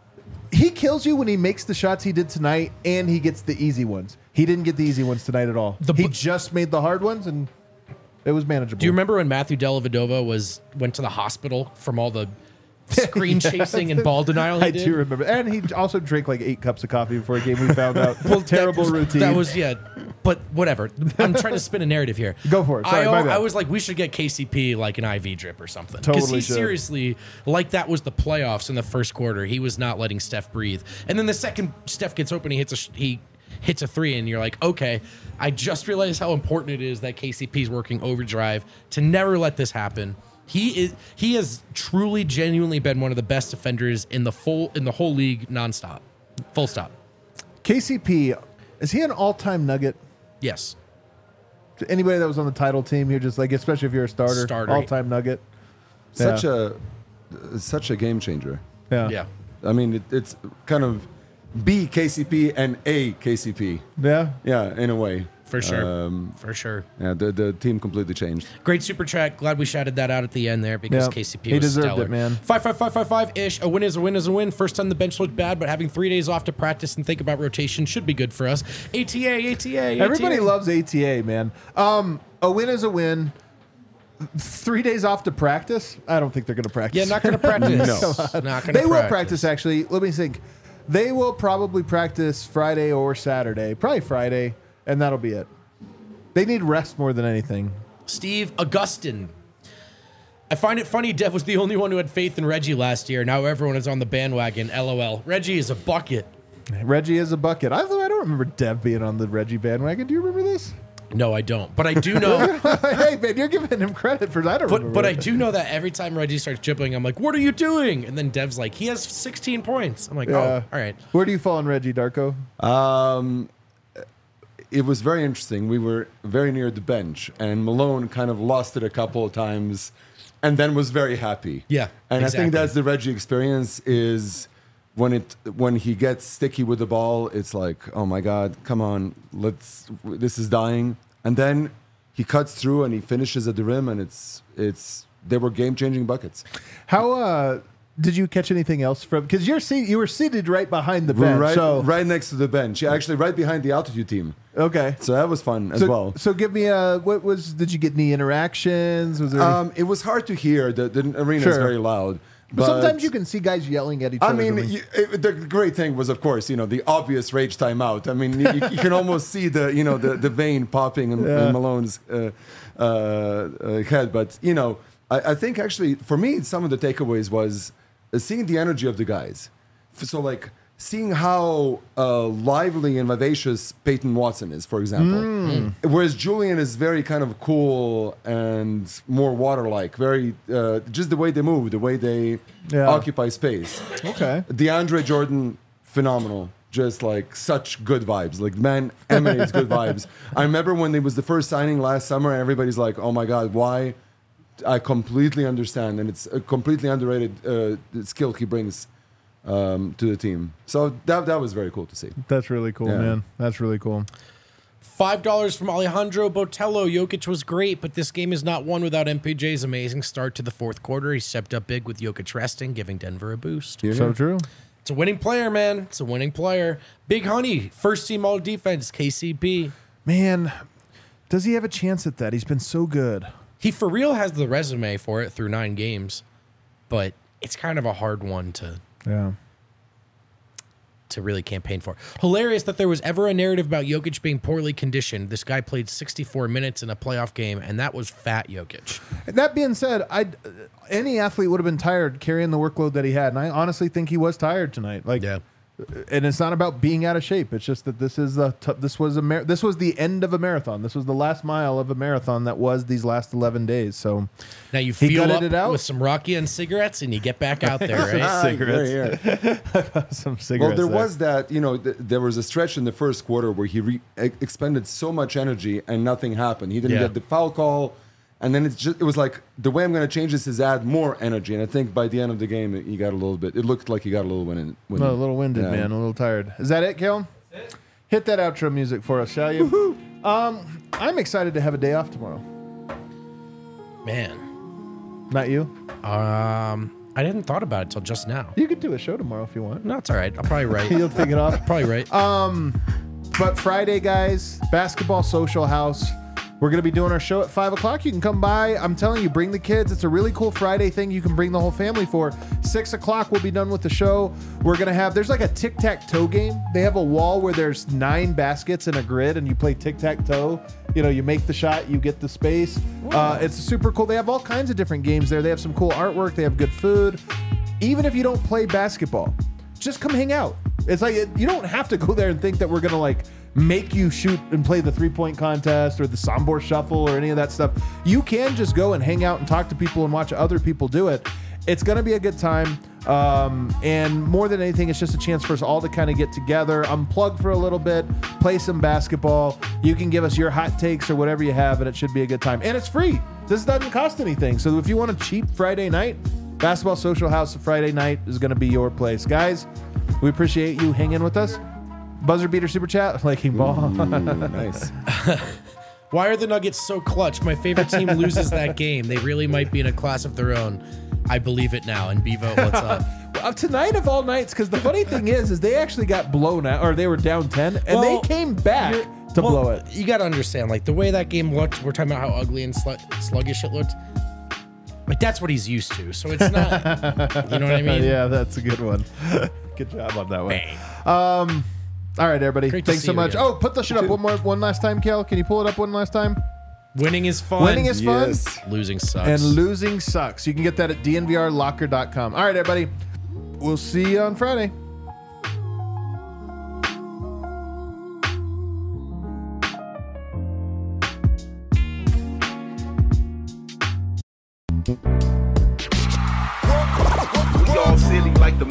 Speaker 1: he kills you when he makes the shots he did tonight, and he gets the easy ones. He didn't get the easy ones tonight at all. He just made the hard ones, and it was manageable.
Speaker 2: Do you remember when Matthew Dellavedova went to the hospital from all the screen chasing and ball denial he did?
Speaker 1: I do remember. And he also drank like 8 cups of coffee before a game, we found out. Terrible routine.
Speaker 2: That was, but whatever. I'm trying to spin a narrative here.
Speaker 1: Go for it. Sorry, my bad.
Speaker 2: I was like, we should get KCP like an IV drip or something.
Speaker 1: Totally
Speaker 2: Because he
Speaker 1: should.
Speaker 2: seriously, like that was the playoffs in the first quarter. He was not letting Steph breathe. And then the second Steph gets open, he hits a three, and you're like, okay, I just realized how important it is that KCP's working overdrive to never let this happen. He has truly, genuinely been one of the best defenders in the whole league, nonstop, full stop.
Speaker 1: KCP, is he an all-time Nugget?
Speaker 2: Yes.
Speaker 1: Anybody that was on the title team, you're just like, especially if you're a starter. All-time Nugget.
Speaker 4: Such a game changer.
Speaker 2: Yeah.
Speaker 4: I mean, it's kind of B KCP and A KCP.
Speaker 1: Yeah.
Speaker 4: Yeah, in a way.
Speaker 2: For sure.
Speaker 4: Yeah, the team completely changed.
Speaker 2: Great super chat. Glad we shouted that out at the end there because
Speaker 1: Yeah.
Speaker 2: KCP
Speaker 1: He
Speaker 2: was
Speaker 1: deserved
Speaker 2: stellar.
Speaker 1: it, man.
Speaker 2: 5-5-5-5-5-ish. A win is a win is a win. First time the bench looked bad, but having 3 days off to practice and think about rotation should be good for us. ATA.
Speaker 1: Everybody loves ATA, man. A win is a win. 3 days off to practice? I don't think they're going to practice.
Speaker 2: Yeah, not going to practice.
Speaker 4: No.
Speaker 2: Not going to
Speaker 1: They will practice, actually. Let me think. They will probably practice Friday or Saturday. Probably Friday, and that'll be it. They need rest more than anything.
Speaker 2: Steve Augustin. I find it funny Dev was the only one who had faith in Reggie last year. Now everyone is on the bandwagon. LOL. Reggie is a bucket.
Speaker 1: Reggie is a bucket. I don't don't remember Dev being on the Reggie bandwagon. Do you remember this?
Speaker 2: No, I don't. But I do know.
Speaker 1: Hey, man, you're giving him credit for that.
Speaker 2: But I do know that every time Reggie starts dribbling, I'm like, what are you doing? And then Dev's like, he has 16 points. I'm like, oh, all right.
Speaker 1: Where do you fall on Reggie, Darko?
Speaker 4: It was very interesting. We were very near the bench, and Malone kind of lost it a couple of times and then was very happy.
Speaker 2: Yeah,
Speaker 4: and
Speaker 2: exactly.
Speaker 4: I think that's the Reggie experience is when he gets sticky with the ball, it's like, oh my God, come on, this is dying. And then he cuts through and he finishes at the rim, and they were game-changing buckets.
Speaker 1: How did you catch anything else from? Because you were seated right behind the bench,
Speaker 4: right next to the bench. Yeah, actually, right behind the altitude team.
Speaker 1: Okay,
Speaker 4: so that was fun as well.
Speaker 1: So give me did you get any interactions? Was there?
Speaker 4: It was hard to hear. The arena is very loud.
Speaker 1: But sometimes you can see guys yelling at each other.
Speaker 4: I mean, the great thing was, of course, the obvious rage timeout. I mean, you can almost see the vein popping in Malone's head. But I think actually for me, some of the takeaways was seeing the energy of the guys. So like seeing how lively and vivacious Peyton Watson is, for example. Whereas Julian is very kind of cool and more water-like, very just the way they move, the way they occupy space.
Speaker 1: Okay.
Speaker 4: DeAndre Jordan, phenomenal. Just like such good vibes. Like, man emanates good vibes. I remember when it was the first signing last summer, and everybody's like, oh my God, why? I completely understand. And it's a completely underrated skill he brings to the team. So that was very cool to see.
Speaker 1: That's really cool, man. That's really cool.
Speaker 2: $5 from Alejandro Botello. Jokic was great, but this game is not won without MPJ's amazing start to the fourth quarter. He stepped up big with Jokic resting, giving Denver a boost.
Speaker 1: So true.
Speaker 2: It's a winning player, man. It's a winning player. Big Honey, first team all defense, KCP.
Speaker 1: Man, does he have a chance at that? He's been so good.
Speaker 2: He for real has the resume for it through 9 games, but it's kind of a hard one to really campaign for. Hilarious that there was ever a narrative about Jokic being poorly conditioned. This guy played 64 minutes in a playoff game, and that was fat Jokic.
Speaker 1: That being said, any athlete would have been tired carrying the workload that he had, and I honestly think he was tired tonight. And it's not about being out of shape. It's just that this was the end of a marathon. This was the last mile of a marathon that was these last 11 days. So
Speaker 2: now you fuel up with some Rocky and cigarettes, and you get back out there, right?
Speaker 1: Cigarettes. Some cigarettes.
Speaker 4: Well, there was that. There was a stretch in the first quarter where he expended so much energy and nothing happened. He didn't get the foul call. And then it was like, the way I'm going to change this is add more energy. And I think by the end of the game, he got a little bit. It looked like he got a little winded.
Speaker 1: A little winded, man. A little tired. Is that it, Kale? Hit that outro music for us, shall you? I'm excited to have a day off tomorrow.
Speaker 2: Man.
Speaker 1: Not you?
Speaker 2: I didn't thought about it till just now.
Speaker 1: You could do a show tomorrow if you want.
Speaker 2: No, it's all right. I'll probably write.
Speaker 1: You'll take it off?
Speaker 2: Probably right.
Speaker 1: But Friday, guys, Basketball Social House. We're going to be doing our show at 5 o'clock. You can come by. I'm telling you, bring the kids. It's a really cool Friday thing you can bring the whole family for. 6 o'clock, we'll be done with the show. We're going to have, there's like a tic-tac-toe game. They have a wall where there's 9 baskets in a grid, and you play tic-tac-toe. You make the shot, you get the space. It's super cool. They have all kinds of different games there. They have some cool artwork. They have good food. Even if you don't play basketball, just come hang out. It's like, you don't have to go there and think that we're going to make you shoot and play the 3-point contest or the Sombor Shuffle or any of that stuff. You can just go and hang out and talk to people and watch other people do it. It's going to be a good time. And more than anything, it's just a chance for us all to kind of get together, unplug for a little bit, play some basketball. You can give us your hot takes or whatever you have, and it should be a good time. And it's free. This doesn't cost anything. So if you want a cheap Friday night, Basketball Social House Friday night is going to be your place. Guys, we appreciate you hanging with us. Buzzer beater super chat, liking ball.
Speaker 4: Nice.
Speaker 2: Why are the Nuggets so clutch? My favorite team loses that game. They really might be in a class of their own. I believe it now. And Bevo, what's up?
Speaker 1: Tonight of all nights, because the funny thing is they actually got blown out, or they were down 10, and they came back to blow it.
Speaker 2: You got to understand, the way that game looked, we're talking about how ugly and sluggish it looked. That's what he's used to. So it's not, you know what I mean?
Speaker 1: Yeah, that's a good one. Good job on that one. All right, everybody. Thanks so much. Oh, put the shit up one last time, Kel. Can you pull it up one last time?
Speaker 2: Winning is fun.
Speaker 1: Winning is fun.
Speaker 4: Yes.
Speaker 2: Losing sucks.
Speaker 1: And losing sucks. You can get that at dnvrlocker.com. All right, everybody. We'll see you on Friday.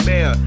Speaker 5: nightmare.